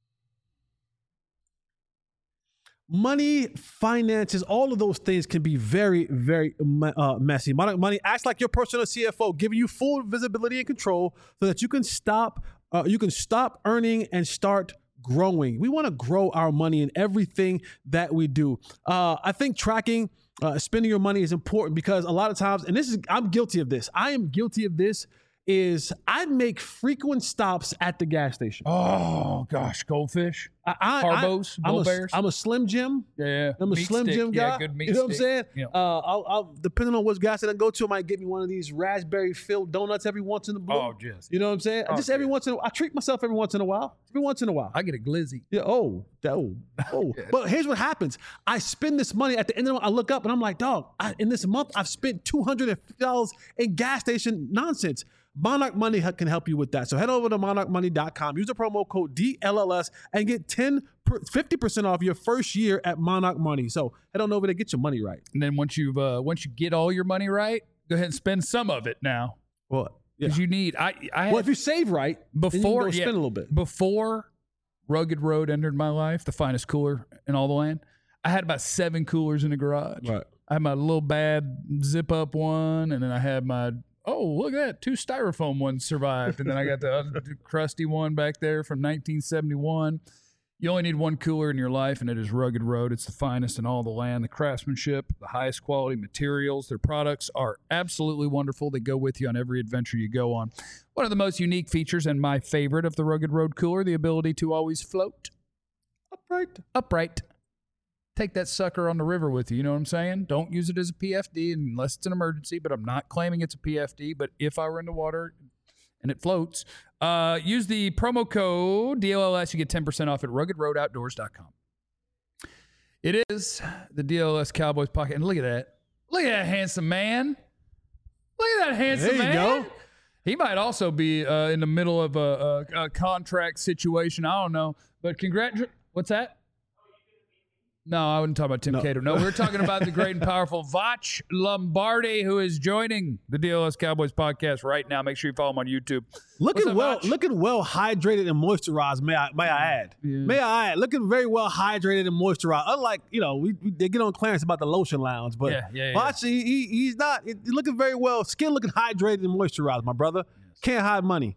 Money, finances, all of those things can be very, very uh, messy. Monarch Money acts like your personal C F O, giving you full visibility and control so that you can stop. Uh, you can stop earning and start growing. We want to grow our money in everything that we do. Uh, I think tracking, uh, spending your money is important because a lot of times, and this is, I'm guilty of this. I am guilty of this. Is I make frequent stops at the gas station.
Oh gosh, Goldfish,
I, I,
Carbos,
I, I'm,
Bull
a,
Bears.
I'm a Slim Jim.
Yeah,
I'm a
meat
Slim
stick.
Jim guy.
Yeah, good meat
you know what I'm
stick.
saying?
Yeah.
Uh, I'll, I'll, depending on what gas station I go to, I might get me one of these raspberry filled donuts every once in a blue.
Oh, just
you know what I'm saying?
Oh,
Just every
yeah.
once in a while. I treat myself every once in a while. Every once in a while.
I get a glizzy.
Yeah. Oh, oh, oh.
Yeah.
But here's what happens. I spend this money at the end of the month. I look up and I'm like, dog, I, in this month, I've spent two hundred fifty dollars in gas station nonsense. Monarch Money can help you with that. So head over to monarch money dot com. Use the promo code D L L S and get ten, fifty percent off your first year at Monarch Money. So head on over there, get your money right.
And then once you've uh, once you get all your money right, go ahead and spend some of it now.
Well,
because
yeah.
you need. I. I had,
well, if you save right,
before
then you can go
yeah,
spend a little bit.
Before Rugged Road entered my life, the finest cooler in all the land, I had about seven coolers in the garage.
Right.
I had my little bad zip up one, and then I had my. Oh, look at that. Two styrofoam ones survived. And then I got the other crusty one back there from nineteen seventy-one. You only need one cooler in your life, and it is Rugged Road. It's the finest in all the land. The craftsmanship, the highest quality materials. Their products are absolutely wonderful. They go with you on every adventure you go on. One of the most unique features and my favorite of the Rugged Road cooler, the ability to always float
Upright.
Upright. Take that sucker on the river with you. You know what I'm saying? Don't use it as a P F D unless it's an emergency, but I'm not claiming it's a P F D. But if I were in the water and it floats, uh, use the promo code D L L S. You get ten percent off at rugged road outdoors dot com. It is the D L L S Cowboys pocket. And look at that. Look at that handsome man. Look at that handsome
There you
man.
go.
He might also be uh, in the middle of a, a, a contract situation. I don't know. But congratulations. What's that? No, I wouldn't talk about Tim
No.
Cato. No, we're talking about the great and powerful Voch Lombardi, who is joining the D L S Cowboys podcast right now. Make sure you follow him on YouTube.
Looking
What's up,
well,
Voch?
looking well hydrated and moisturized. May I, may I add?
Yeah.
May I add? Looking very well hydrated and moisturized. Unlike you know, we, we they get on Clarence about the lotion lounge, but
Yeah, yeah, yeah.
Voch, he, he he's not. He's looking very well. Skin looking hydrated and moisturized, my brother. Can't hide money.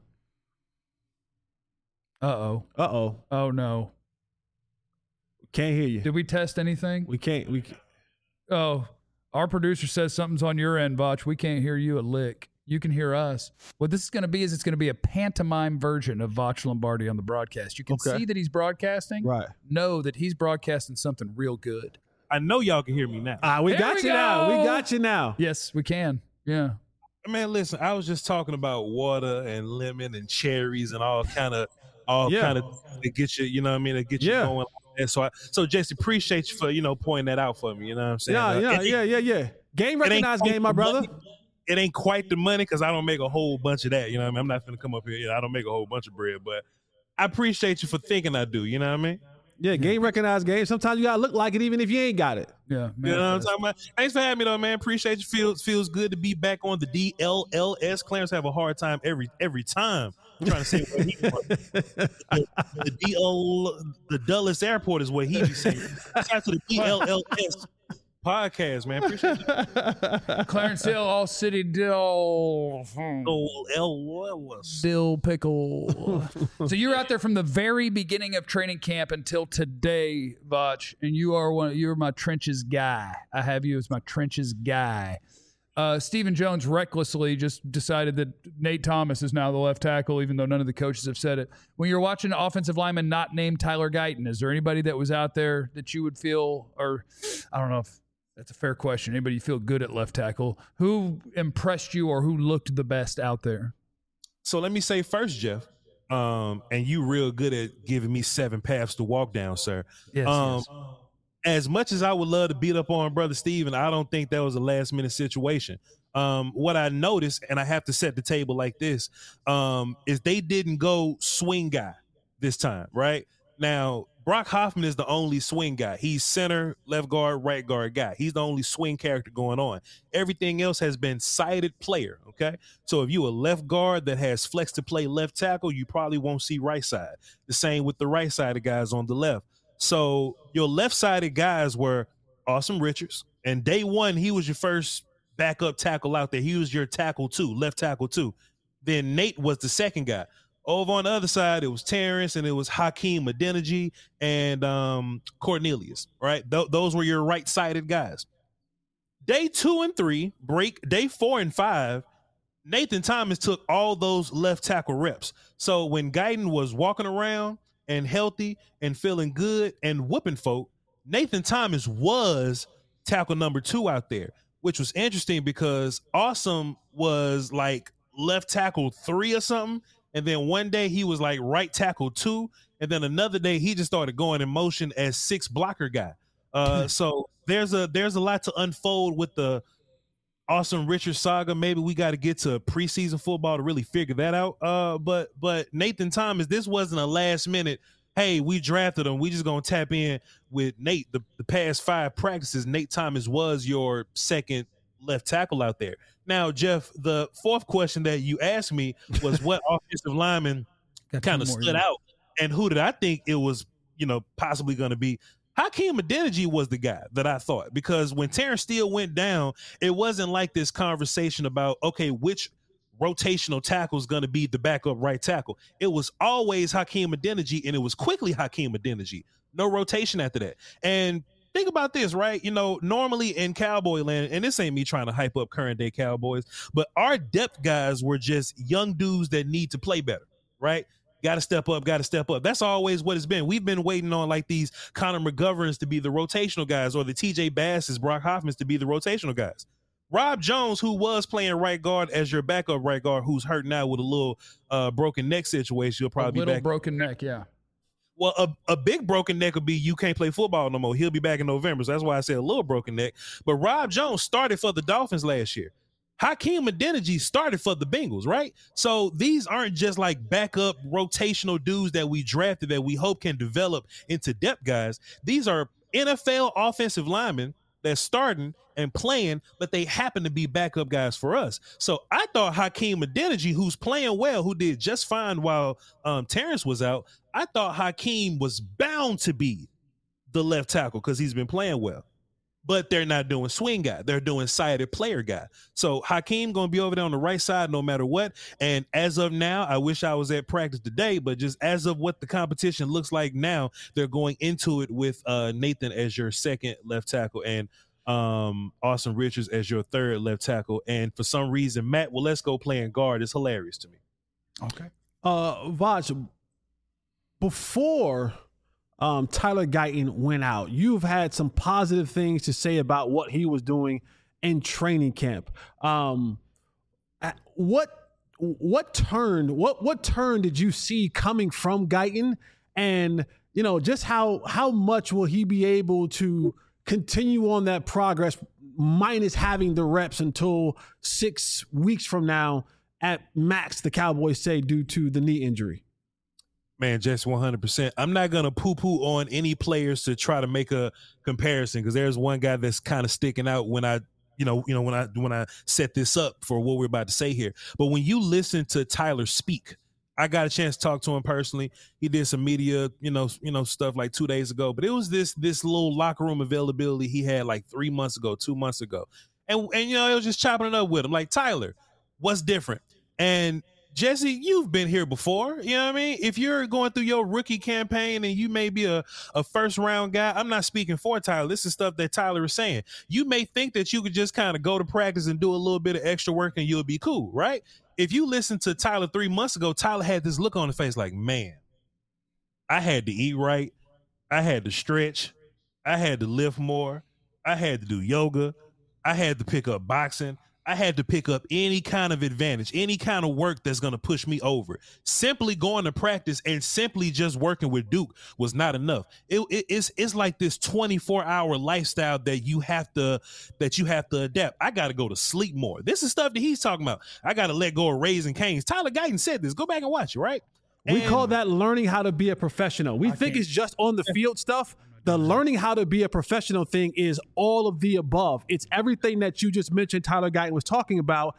Uh-oh.
Uh oh.
Oh, no.
Can't hear you.
Did we test anything?
We can't. We. Can't.
Oh, our producer says something's on your end, Voch. We can't hear you a lick. You can hear us. What this is going to be is it's going to be a pantomime version of Voch Lombardi on the broadcast. You can
Okay.
see that he's broadcasting.
Right.
Know that he's broadcasting something real good.
I know y'all can hear me now.
Ah, we
There
got
we
you now.
go.
We got you now.
Yes, we can. Yeah.
Man, listen, I was just talking about water and lemon and cherries and all kind of all
Yeah.
kind of to get you, you know what I mean, to get you
Yeah.
going. And so I, so Jesse, appreciate you for, you know, pointing that out for me. You know what I'm saying?
Yeah,
Uh,
yeah,
it-
yeah, yeah, yeah. Game
it ain't
recognized
quite
game, my
the
brother.
money. It ain't quite the money because I don't make a whole bunch of that. You know what I mean? I'm not going to come up here. You know, I don't make a whole bunch of bread, but I appreciate you for thinking I do. You know what I mean?
Yeah, game recognized game. Sometimes you gotta look like it even if you ain't got it.
Yeah.
You know what I'm talking about? Thanks for having me, though, man. Appreciate you. Feels feels good to be back on the D L L S. Clarence have a hard time every every time I'm trying to say where he from. The, the D L, the Dulles Airport is where he be saying. Shout out to the D L L S podcast, man. Appreciate you.
Clarence Hill, All City Dill. hmm.
Oh, L S.
Dill pickle. So you're out there from the very beginning of training camp until today, Voch, and you are one. You're my trenches guy. I have you as my trenches guy. Uh, Stephen Jones recklessly just decided that Nate Thomas is now the left tackle, even though none of the coaches have said it. When you're watching an offensive lineman not named Tyler Guyton, is there anybody that was out there that you would feel, or I don't know if that's a fair question, anybody you feel good at left tackle, who impressed you or who looked the best out there?
So let me say first, Jeff, um, and you real good at giving me seven paths to walk down, sir.
Yes,
um,
yes.
As much as I would love to beat up on Brother Steven, I don't think that was a last minute situation. Um, what I noticed, and I have to set the table like this, um, is they didn't go swing guy this time, right? Now, Brock Hoffman is the only swing guy. He's center, left guard, right guard guy. He's the only swing character going on. Everything else has been sided player, okay? So if you a left guard that has flex to play left tackle, you probably won't see right side. The same with the right side of guys on the left. So your left-sided guys were Awesome Richards, and day one, he was your first backup tackle out there. He was your tackle two, left tackle two. Then Nate was the second guy. Over on the other side, it was Terrence, and it was Hakeem Adeniji and um, Cornelius, right? Th- those were your right-sided guys. Day two and three, break, day four and five, Nathan Thomas took all those left tackle reps. So when Guyton was walking around and healthy and feeling good and whooping folk, Nathan Thomas was tackle number two out there, which was interesting because Awesome was like left tackle three or something. And then one day he was like right tackle two. And then another day he just started going in motion as six blocker guy. Uh, so there's a there's a lot to unfold with the Awesome Richard saga. Maybe we got to get to preseason football to really figure that out. Uh, but but Nathan Thomas, this wasn't a last minute, hey, we drafted him, we just gonna tap in with Nate. The, the past five practices, Nate Thomas was your second left tackle out there. Now, Jeff, the fourth question that you asked me was what offensive lineman kind of stood out, and who did I think it was, you know, possibly going to be? Hakeem Adeniji was the guy that I thought, because when Terrence Steele went down, it wasn't like this conversation about, okay, which rotational tackle is going to be the backup right tackle. It was always Hakeem Adeniji, and it was quickly Hakeem Adeniji. No rotation after that. And think about this, right? You know, normally in Cowboy land, and this ain't me trying to hype up current day Cowboys, but our depth guys were just young dudes that need to play better, right? Got to step up, got to step up. That's always what it's been. We've been waiting on like these Connor McGoverns to be the rotational guys, or the T J Basses, Brock Hoffmans to be the rotational guys. Rob Jones, who was playing right guard as your backup right guard, who's hurt now with a little uh, broken neck situation, he'll probably
a little
be back.
broken neck, yeah.
Well, a, a big broken neck would be you can't play football no more. He'll be back in November. So that's why I said a little broken neck. But Rob Jones started for the Dolphins last year. Hakeem Adeniji started for the Bengals, right? So these aren't just like backup rotational dudes that we drafted that we hope can develop into depth guys. These are N F L offensive linemen that's starting and playing, but they happen to be backup guys for us. So I thought Hakeem Adeniji, who's playing well, who did just fine while um, Terrence was out, I thought Hakeem was bound to be the left tackle because he's been playing well. But they're not doing swing guy. They're doing sided player guy. So Hakeem going to be over there on the right side no matter what. And as of now, I wish I was at practice today, but just as of what the competition looks like now, they're going into it with uh, Nathan as your second left tackle. And um, Austin Richards as your third left tackle. And for some reason, Matt Waletzko playing guard is hilarious to me.
Okay.
Uh, Vaj, before um, Tyler Guyton went out, you've had some positive things to say about what he was doing in training camp. Um, what what turn what what turn did you see coming from Guyton, and you know just how how much will he be able to continue on that progress, minus having the reps until six weeks from now at max, the Cowboys say, due to the knee injury?
Man, just one hundred percent. I'm not going to poo-poo on any players to try to make a comparison, because there's one guy that's kind of sticking out when I, you know, you know, when I when I set this up for what we're about to say here. But when you listen to Tyler speak, I got a chance to talk to him personally. He did some media, you know, you know, stuff like two days ago. But it was this this little locker room availability he had like three months ago, two months ago, and and you know, it was just chopping it up with him, like, Tyler, what's different? And Jesse, you've been here before. You know what I mean? If you're going through your rookie campaign and you may be a, a first round guy, I'm not speaking for Tyler. This is stuff that Tyler is saying. You may think that you could just kind of go to practice and do a little bit of extra work and you'll be cool, right? If you listen to Tyler three months ago, Tyler had this look on his face like, man, I had to eat right. I had to stretch. I had to lift more. I had to do yoga. I had to pick up boxing. I had to pick up any kind of advantage, any kind of work that's going to push me over. Simply going to practice and simply just working with Duke was not enough. It, it, it's it's like this twenty-four hour lifestyle that you have to that you have to adapt. I got to go to sleep more. This is stuff that he's talking about. I got to let go of Raising Cane's. Tyler Guyton said this. Go back and watch it, right?
We
and,
call that learning how to be a professional. We I think it's just on the field stuff. The learning how to be a professional thing is all of the above. It's everything that you just mentioned Tyler Guyton was talking about,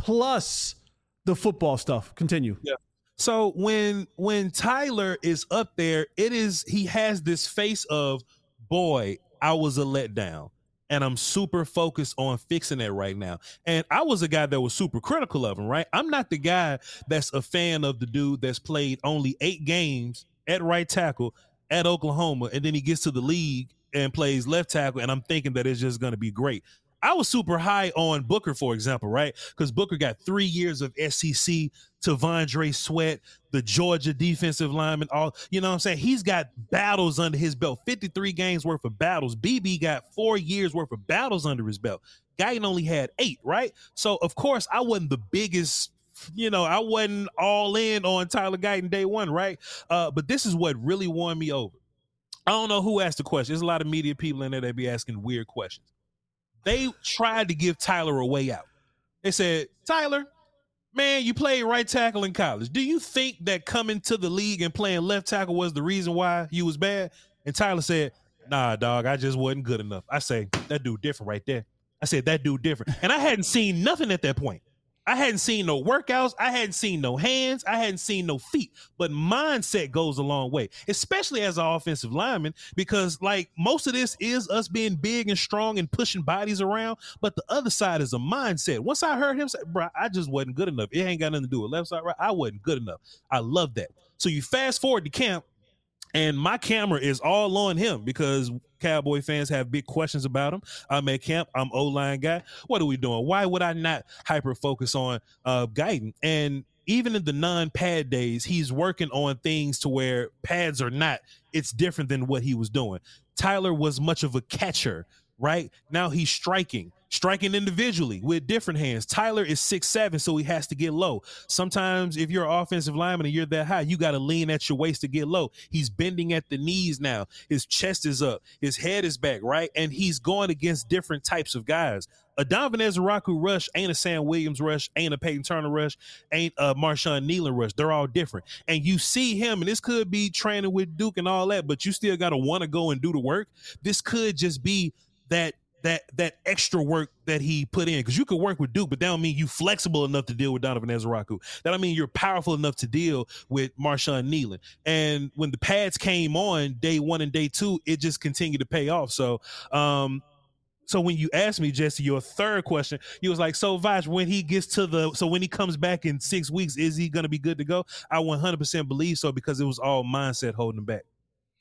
plus the football stuff. Continue.
Yeah. So when when Tyler is up there, it is he has this face of, boy, I was a letdown. And I'm super focused on fixing it right now. And I was a guy that was super critical of him, right? I'm not the guy that's a fan of the dude that's played only eight games at right tackle at Oklahoma, and then he gets to the league and plays left tackle, and I'm thinking that it's just going to be great. I was super high on Booker, for example, right? Because Booker got three years of S E C, T'Vondre Sweat, the Georgia defensive lineman, all, you know what I'm saying? He's got battles under his belt, fifty-three games worth of battles. B B got four years worth of battles under his belt. Guyton only had eight, right? So, of course, I wasn't the biggest, you know, I wasn't all in on Tyler Guyton day one, right? Uh, but this is what really won me over. I don't know who asked the question. There's a lot of media people in there that be asking weird questions. They tried to give Tyler a way out. They said, Tyler, man, you played right tackle in college. Do you think that coming to the league and playing left tackle was the reason why you was bad? And Tyler said, nah, dog, I just wasn't good enough. I say, that dude different right there. I said, that dude different. And I hadn't seen nothing at that point. I hadn't seen no workouts. I hadn't seen no hands. I hadn't seen no feet. But mindset goes a long way, especially as an offensive lineman, because like most of this is us being big and strong and pushing bodies around. But the other side is a mindset. Once I heard him say, bro, I just wasn't good enough. It ain't got nothing to do with left side, right? I wasn't good enough. I love that. So you fast forward to camp, and my camera is all on him because Cowboy fans have big questions about him. I'm at camp. I'm O-line guy. What are we doing? Why would I not hyper focus on uh, Guyton? And even in the non-pad days, he's working on things to where pads are not. It's different than what he was doing. Tyler was much of a catcher, right? Now he's striking. Striking individually with different hands. Tyler is six seven, so he has to get low. Sometimes if you're an offensive lineman and you're that high, you got to lean at your waist to get low. He's bending at the knees now. His chest is up. His head is back, right? And he's going against different types of guys. A Donovan Ezeraku rush ain't a Sam Williams rush, ain't a Peyton Turner rush, ain't a Marshawn Nealon rush. They're all different. And you see him, and this could be training with Duke and all that, but you still got to want to go and do the work. This could just be that that that extra work that he put in, because you could work with Duke, but that don't mean you flexible enough to deal with Donovan Ezeraku. That don't mean you're powerful enough to deal with Marshawn Nealon. And when the pads came on day one and day two, it just continued to pay off. So, um, so when you asked me, Jesse, your third question, you was like, so Vaj, when he gets to the, so when he comes back in six weeks, is he going to be good to go? I one hundred percent believe so, because it was all mindset holding him back.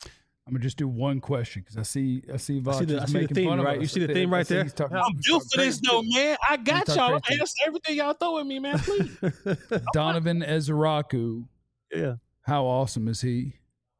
I'm gonna just do one question because I see I see Voch
I see the,
is
I see the
making
theme,
fun of
right?
us.
You see the
I
theme
think- I
right
think
there?
he's talking-
I'm
he's
built
talking
for this
crazy.
though, man. I got
talk
y'all.
crazy.
Answer everything y'all throw at me, man. Please.
Donovan Ezeraku.
Yeah.
How awesome is he?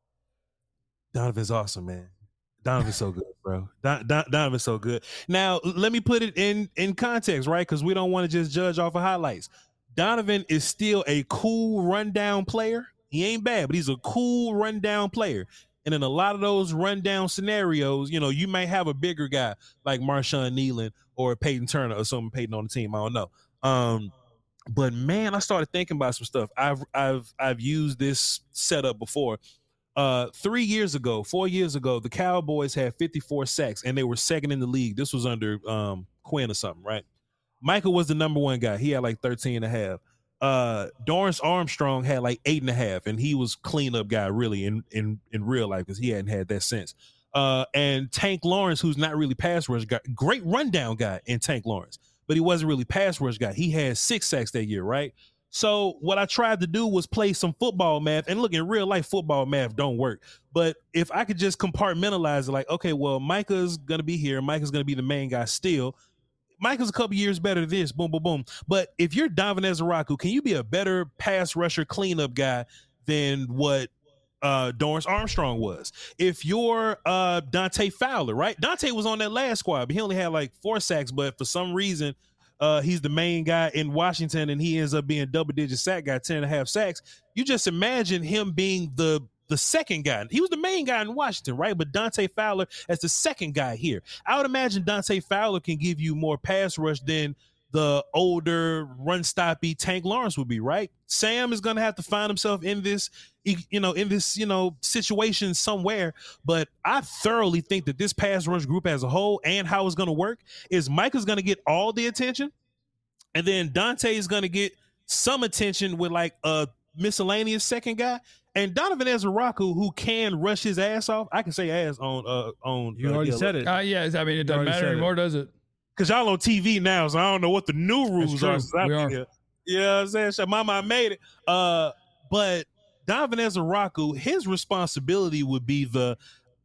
Donovan's awesome, man. Donovan's so good, bro. Don, Don, Donovan's so good. Now, l- let me put it in in context, right? Because we don't want to just judge off of highlights. Donovan is still a cool rundown player. He ain't bad, but he's a cool rundown player. And in a lot of those rundown scenarios, you know, you may have a bigger guy like Marshawn Nealon or Peyton Turner or someone Peyton on the team. I don't know. Um, but man, I started thinking about some stuff. I've I've I've used this setup before. Uh, three years ago, four years ago, the Cowboys had fifty-four sacks and they were second in the league. This was under um, Quinn or something, right? Michael was the number one guy. He had like thirteen and a half. Uh, Dorrance Armstrong had like eight and a half, and he was cleanup guy really in in in real life because he hadn't had that since. Uh, and Tank Lawrence, who's not really pass rush guy, great rundown guy in Tank Lawrence, but he wasn't really pass rush guy. He had six sacks that year, right? So what I tried to do was play some football math, and look, in real life, football math don't work. But if I could just compartmentalize it, like, okay, well, Micah's gonna be here, Micah's gonna be the main guy still. Micah's a couple years better than this, boom, boom, boom. But if you're Donovan Ezeraku, can you be a better pass rusher cleanup guy than what uh, Dorrance Armstrong was? If you're uh, Dante Fowler, right? Dante was on that last squad, but he only had like four sacks. But for some reason, uh, he's the main guy in Washington, and he ends up being double-digit sack guy, ten and a half sacks. You just imagine him being the the second guy. He was the main guy in Washington, right? But Dante Fowler as the second guy here. I would imagine Dante Fowler can give you more pass rush than the older run-stoppy Tank Lawrence would be, right? Sam is going to have to find himself in this, you know, in this, you know, situation somewhere. But I thoroughly think that this pass rush group as a whole and how it's going to work is Micah's going to get all the attention, and then Dante is going to get some attention with like a miscellaneous second guy. And Donovan Ezeraku, who can rush his ass off, I can say ass on uh on.
You
uh,
already
yeah,
said it.
Uh, yeah, I mean, it doesn't
already
matter
said it.
anymore, does it?
Cause y'all on T V now, so I don't know what the new rules
true.
are. since I've
We
been
are.
here. You know what I'm saying? So mama, I made it. Uh, but Donovan Ezeraku, his responsibility would be the,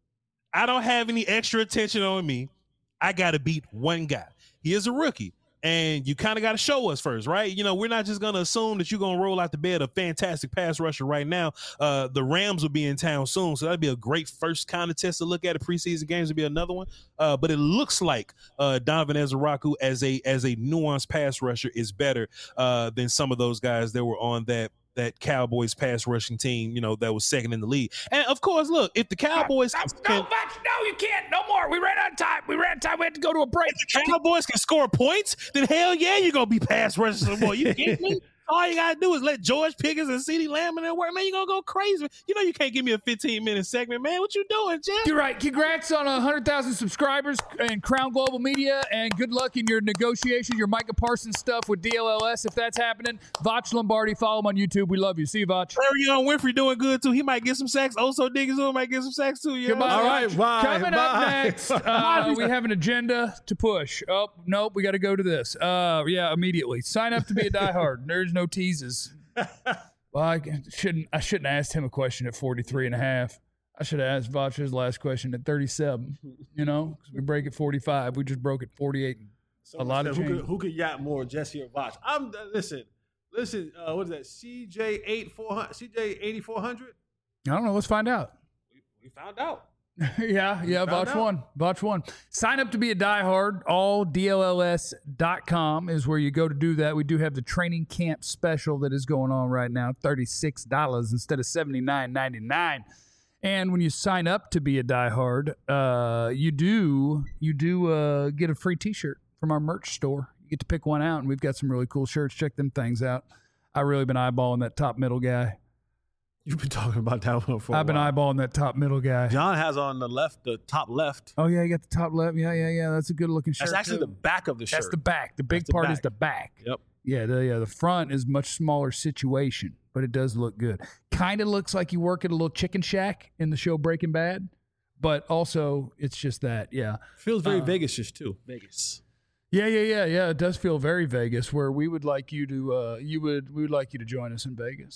I don't have any extra attention on me. I got to beat one guy. He is a rookie. And you kind of got to show us first, right? You know, we're not just going to assume that you're going to roll out the bed a fantastic pass rusher right now. Uh, the Rams will be in town soon, so that'd be a great first kind of test to look at. The preseason games would be another one. Uh, but it looks like uh, Donovan Ezeraku as a as a nuanced pass rusher is better uh, than some of those guys that were on that that Cowboys pass rushing team, you know, that was second in the league. And of course, look, if the Cowboys
No,
can,
no, Voch, no, you can't. No more. We ran out of time. We ran out of time. We had to go to a break.
if the Cowboys can score points, then hell yeah, you're gonna be pass rushing some more. You get me? All you gotta do is let George Pickens and CeeDee Lamb in there work. Man, you're gonna go crazy. You know you can't give me a fifteen minute segment, man. What you doing, Jeff?
You're right. Congrats on one hundred thousand subscribers and Crown Global Media, and good luck in your negotiations, your Micah Parsons stuff with D L L S if that's happening. Voch Lombardi, follow him on YouTube. We love you. See you, Voch.
Arion Winfrey doing good too. He might get some sacks. Also, Diggins might get some sacks too. You know?
Goodbye.
All right, bye,
Coming up
bye.
next, uh, we have an agenda to push. Oh, nope, we got to go to this. Uh, yeah, immediately. Sign up to be a diehard. There's no teases. Well, I shouldn't. I shouldn't have asked him a question at forty-three and a half. I should have asked Voch his last question at thirty-seven. You know, because we break at forty-five. We just broke at forty-eight.
Someone
lot of
said, who
change.
could, who could yap more, Jesse or Voch? I'm listen, listen. Uh, what is that? C J eight four hundred, C J eighty four hundred.
I don't know. Let's find out.
We found out.
yeah, yeah,
found
Voch
out.
one. Voch one. Sign up to be a diehard. all D L L S dot com is where you go to do that. We do have the training camp special that is going on right now, thirty-six dollars instead of seventy-nine ninety-nine. And when you sign up to be a diehard, uh, you do you do uh, get a free T-shirt from our merch store. You get to pick one out, and we've got some really cool shirts. Check them things out. I've really been eyeballing that top middle guy.
You've been talking about that one for a
I've been
while.
eyeballing that top middle guy.
John has on the left, the top left.
Oh yeah, you got the top left. Yeah, yeah, yeah. That's a good looking shirt.
That's actually
too.
the back of the shirt.
That's the back. The big
That's the
part is
back.
the back.
Yep.
Yeah, the yeah, the front is much smaller situation, but it does look good. Kind of looks like you work at a little chicken shack in the show Breaking Bad, but also it's just that, yeah.
Feels very
Uh,
Vegas-ish too. Vegas.
Yeah, yeah, yeah, yeah. It does feel very Vegas, where we would like you to uh you would we would like you to join us in Vegas.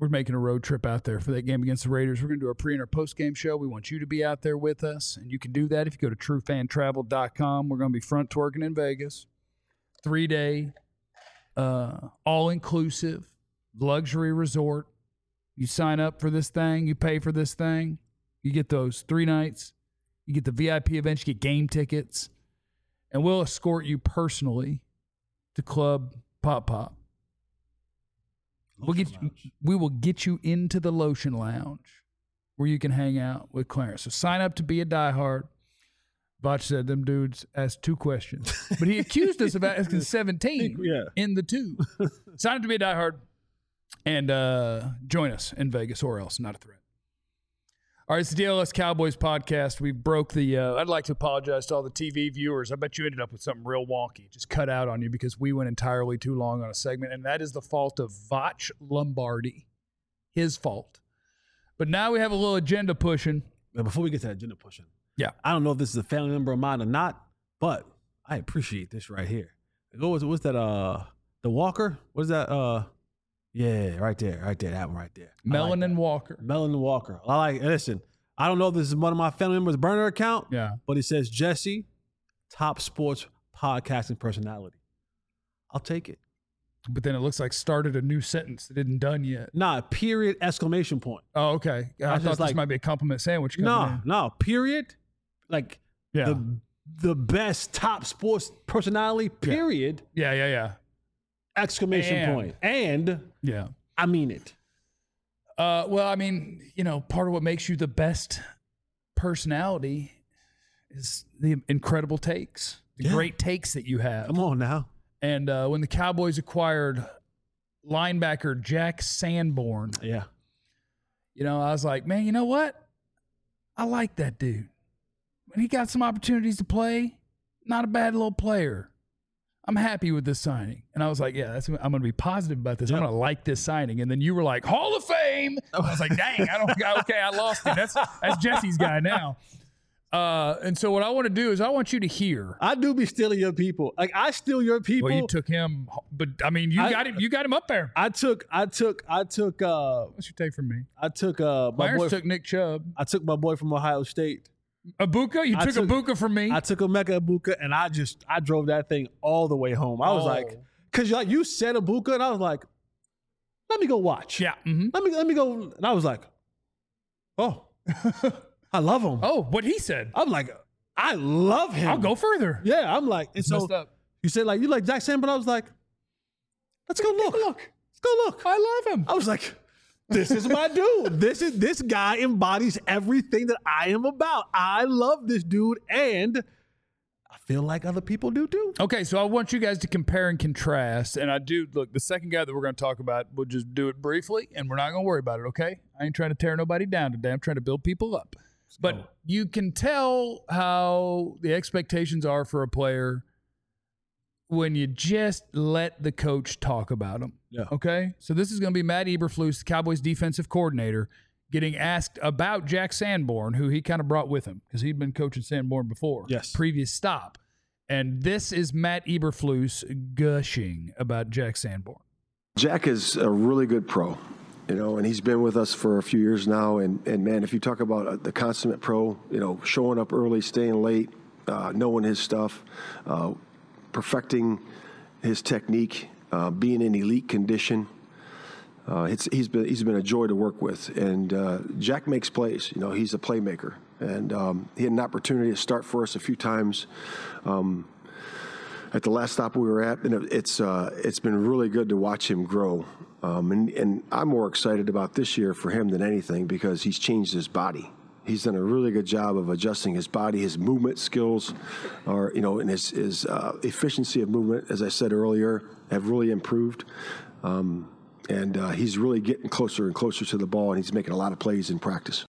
we're making a road trip out there for that game against the Raiders. We're going to do a pre and our post game show. We want you to be out there with us, and you can do that if you go to true fan travel dot com. We're going to be front twerking in Vegas, three day, uh, all inclusive luxury resort. You sign up for this thing, you pay for this thing, you get those three nights, you get the V I P events, you get game tickets, and we'll escort you personally to Club Pop Pop. We'll get you, we will get you into the Lotion Lounge where you can hang out with Clarence. So sign up to be a diehard. Botch said them dudes asked two questions, but he accused us of asking seventeen
yeah.
in the two. Sign up to be a diehard and uh, join us in Vegas or else. Not a threat. All right, it's the D L S Cowboys podcast. We broke the uh, – I'd like to apologize to all the T V viewers. I bet you ended up with something real wonky. Just cut out on you because we went entirely too long on a segment, and that is the fault of Vach Lombardi. His fault. But now we have a little agenda pushing.
Now, before we get to that agenda pushing,
yeah,
I don't know if this is a family member of mine or not, but I appreciate this right here. What was, what's that? Uh, the Walker? What is that? Uh, yeah, right there, right there, that one right there.
Melanin
like
Walker.
Melanin Walker. I like. Listen, I don't know if this is one of my family members' burner account.
Yeah,
but it says Jesse, top sports podcasting personality. I'll take it.
But then it looks like started a new sentence that isn't done yet.
Nah, period, exclamation point.
Oh, okay. I, I thought this
like,
might be a compliment sandwich.
No,
in.
no, period. Like
yeah.
the the best top sports personality, period.
Yeah, yeah, yeah.
Exclamation
and,
point. And
yeah,
I mean it.
Uh, well, I mean, you know, part of what makes you the best personality is the incredible takes, the
Yeah.
great takes that you have.
Come on now.
And uh, when the Cowboys acquired linebacker Jack Sanborn,
Yeah.
you know, I was like, man, you know what? I like that dude. When he got some opportunities to play, not a bad little player. I'm happy with this signing. And I was like, yeah, that's, I'm going to be positive about this.
Yeah.
I'm going to like this signing. And then you were like, Hall of Fame. I was like, dang, I don't, okay, I lost it. That's, that's Jesse's guy now. Uh, and so what I want to do is I want you to hear.
I do be stealing your people. Like I steal your people.
Well, you took him, but I mean, you
I,
got him, you got him up there.
I took, I took, I took, uh,
What's your take from me?
I took, uh, my
Myers
boy,
took Nick Chubb.
I took my boy from Ohio State.
Abuka? You
I
took,
took
Abuka from me?
I took Emeka Ibuka and I just, I drove that thing all the way home. I was
Oh.
like, cause you like, you said Ibuka and I was like, let me go watch.
yeah. Mm-hmm.
Let me, let me go. And I was like, oh, I love him.
Oh, what he said.
I'm like, I love him.
I'll go further.
Yeah, I'm like, and so
Messed up.
you said like, you like Jack Sanborn? I was like, let's go look.
Look,
Let's go look.
I love him.
I was like, this is my dude. This is this guy embodies everything that I am about. I love this dude, and I feel like other people do too.
Okay, so I want you guys to compare and contrast. And I do, look, the second guy that we're going to talk about, we'll just do it briefly, and we're not going to worry about it, okay? I ain't trying to tear nobody down today. I'm trying to build people up. But
go.
you can tell how the expectations are for a player when you just let the coach talk about him.
Yeah.
Okay? So this is going to be Matt Eberflus, the Cowboys defensive coordinator, getting asked about Jack Sanborn, who he kind of brought with him because he'd been coaching Sanborn before.
Yes.
Previous stop. And this is Matt Eberflus gushing about Jack Sanborn.
Jack is a really good pro, you know, and he's been with us for a few years now. And, and man, if you talk about the consummate pro, you know, showing up early, staying late, uh, knowing his stuff, uh, perfecting his technique, uh, being in elite condition. Uh, it's, he's been he's been a joy to work with, and uh, Jack makes plays. You know, he's a playmaker, and um, he had an opportunity to start for us a few times um, at the last stop we were at, and it's uh, it's been really good to watch him grow. Um, and, and I'm more excited about this year for him than anything because he's changed his body. He's done a really good job of adjusting his body. His movement skills are, you know, and his, his uh, efficiency of movement, as I said earlier, have really improved. Um, and uh, he's really getting closer and closer to the ball, and he's making a lot of plays in practice.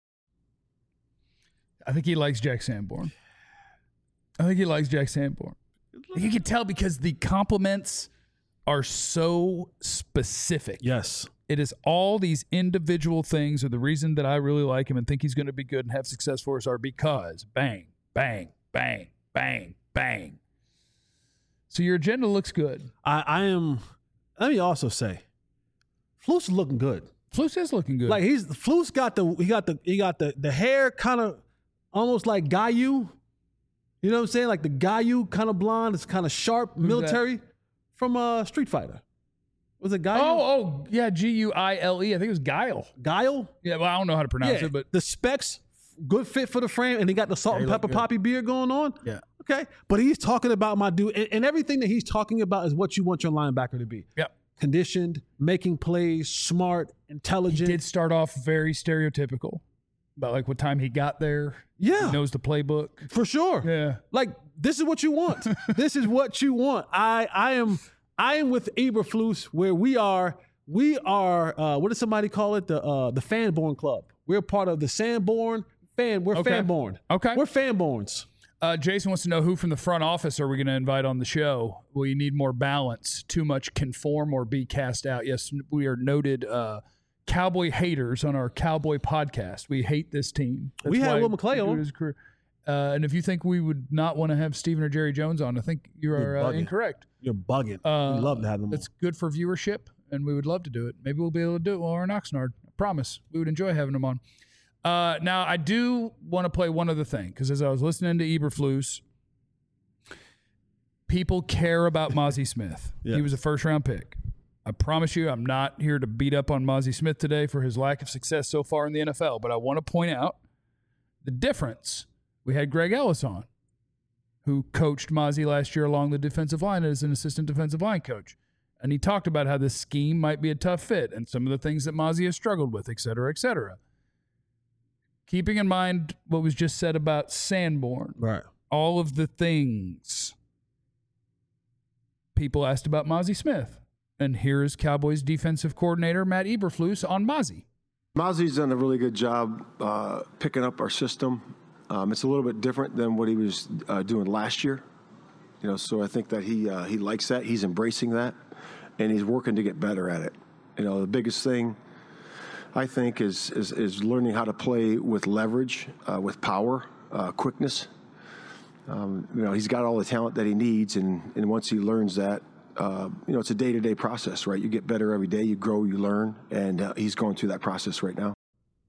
I think he likes Jack Sanborn. I think he likes Jack Sanborn. You can tell because the compliments are so specific.
Yes.
It is all these individual things are the reason that I really like him and think he's going to be good and have success for us are because bang, bang, bang, bang, bang. So your agenda looks good.
I, I am, let me also say, Flus is looking good.
Flus is looking good.
Like he's Flus got the he got the he got the the hair kind of almost like Gayu. You know what I'm saying? Like the Gayu kind of blonde. It's kind of sharp,
Who's
military from uh, Street Fighter. Was it Gayu?
oh, oh, yeah, G U I L E. I think it was Guile.
Guile?
Yeah, well, I don't know how to pronounce
Yeah,
it, but
the specs, good fit for the frame, and he got the salt
Yeah, he
and
looked
pepper
good.
poppy beard going on.
yeah,
Okay. But he's talking about my dude, and, and everything that he's talking about is what you want your linebacker to be.
yeah.
Conditioned, making plays, smart,
He
intelligent.
did start off very stereotypical about like what time he got there.
Yeah.
He knows the playbook.
For sure.
Yeah.
Like this is what you want. This is what you want. I I am I am with Eberflus where we are we are uh, what does somebody call it? The uh, the Fanborn Club. We're part of the Sanborn fan. We're
Okay.
Fanborn.
Okay.
We're Fanborns.
Uh, Jason wants to know who from the front office are we going to invite on the show? We need more balance. Too much conform or be cast out. Yes, we are noted uh, Cowboy haters on our Cowboy podcast. We hate this team.
We had
why
Will McClay
we do
on.
his career. Uh, and if you think we would not want to have Stephen or Jerry Jones on, I think you
You're
are uh,
bugging.
incorrect.
You're bugging.
Uh,
we love to have them.
It's good for viewership, and we would love to do it. Maybe we'll be able to do it while we're in Oxnard. I promise. We would enjoy having them on. Uh, now, I do want to play one other thing, because as I was listening to Eberflus, people care about Mozzie Smith.
Yeah.
He was a first-round pick. I promise you, I'm not here to beat up on Mozzie Smith today for his lack of success so far in the N F L, but I want to point out the difference. We had Greg Ellis on, who coached Mozzie last year along the defensive line as an assistant defensive line coach. And he talked about how this scheme might be a tough fit and some of the things that Mozzie has struggled with, et cetera, et cetera. Keeping in mind what was just said about Sanborn,
right.
all of the things people asked about Mozzie Smith. And here is Cowboys defensive coordinator Matt Eberflus on Mozzie.
Mozzie's done a really good job uh, picking up our system. Um, it's a little bit different than what he was uh, doing last year. You know, so I think that he uh, he likes that. He's embracing that, and he's working to get better at it. You know, the biggest thing I think is is, is learning how to play with leverage, uh, with power, uh, quickness. Um, you know, he's got all the talent that he needs, and, and once he learns that, uh, you know, it's a day-to-day process, right? You get better every day, you grow, you learn, and uh, he's going through that process right now.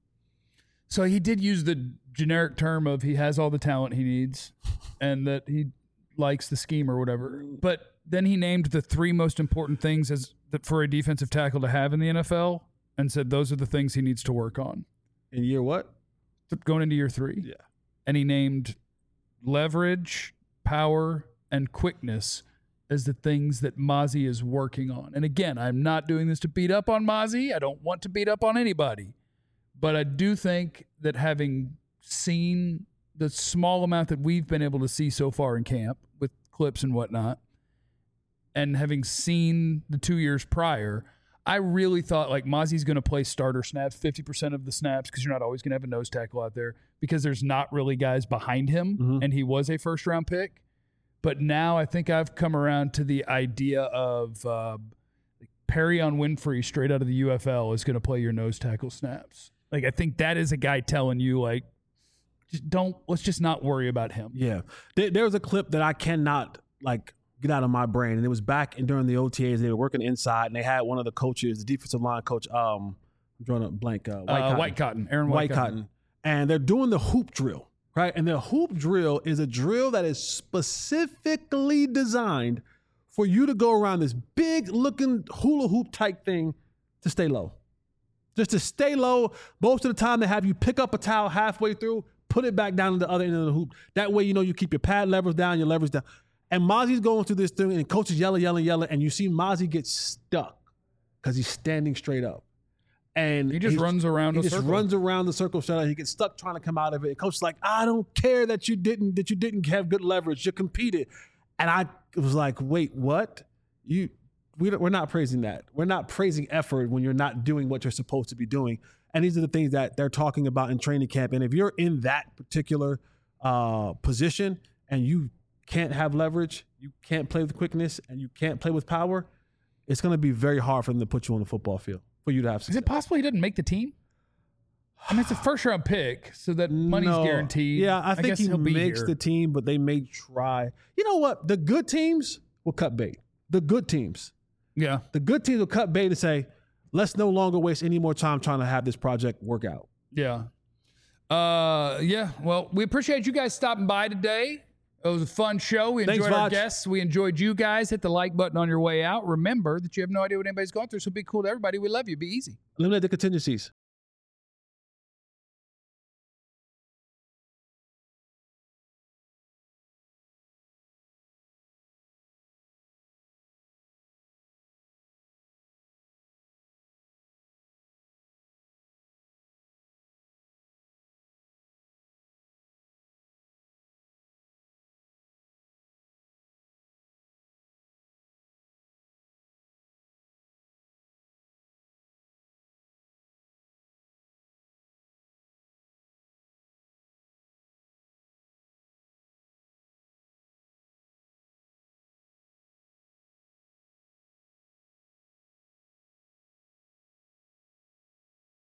So he did use the generic term of he has all the talent he needs and that he likes the scheme or whatever. But then he named the three most important things as that for a defensive tackle to have in the N F L and said those are the things he needs to work on.
In year what?
Going into year three.
Yeah.
And he named leverage, power, and quickness as the things that Mozzie is working on. And again, I'm not doing this to beat up on Mozzie. I don't want to beat up on anybody. But I do think that having seen the small amount that we've been able to see so far in camp with clips and whatnot, and having seen the two years prior, I really thought like Mozzie's going to play starter snaps, fifty percent of the snaps, because you're not always going to have a nose tackle out there because there's not really guys behind him,
Mm-hmm.
and he was a first-round pick. But now I think I've come around to the idea of uh, Perry on Winfrey straight out of the U F L is going to play your nose tackle snaps. Like, I think that is a guy telling you, like, just don't, let's just not worry about him.
Yeah. There, there was a clip that I cannot, like, get out of my brain. And it was back in, during the O T As. They were working inside, and they had one of the coaches, the defensive line coach, um, I'm drawing a blank, uh, White
Uh,
Cotton.
White Cotton, Aaron White,
White Cotton. And they're doing the hoop drill, right? And the hoop drill is a drill that is specifically designed for you to go around this big-looking hula hoop type thing to stay low. Just to stay low. Most of the time, they have you pick up a towel halfway through, put it back down to the other end of the hoop. That way, you know, you keep your pad levers down, your leverage down. And Mozzie's going through this thing, and coach is yelling, yelling, yelling, and you see Mozzie get stuck because he's standing straight up. And
He just
he's-
runs around
He
a
just
circle.
runs around the circle shut. He gets stuck trying to come out of it. And coach is like, I don't care that you didn't that you didn't have good leverage. You competed. And I was like, wait, what? You we don't, we're not praising that. We're not praising effort when you're not doing what you're supposed to be doing. And these are the things that they're talking about in training camp. And if you're in that particular uh, position and you can't have leverage, you can't play with quickness, and you can't play with power, it's going to be very hard for them to put you on the football field for you to have
Is
success.
it possible he didn't make the team? I mean, it's a first-round pick, so that money's
No.
guaranteed.
Yeah, I think
guess
he
he'll be
makes
here.
the team, but they may try. You know what? The good teams will cut bait. The good teams.
Yeah.
The good teams will cut bait and say, let's no longer waste any more time trying to have this project work out.
Yeah. Uh, yeah. Well, we appreciate you guys stopping by today. It was a fun show. We enjoyed
Thanks,
our
Vaj.
guests. We enjoyed you guys. Hit the like button on your way out. Remember that you have no idea what anybody's going through, so be cool to everybody. We love you. Be easy.
Eliminate the contingencies.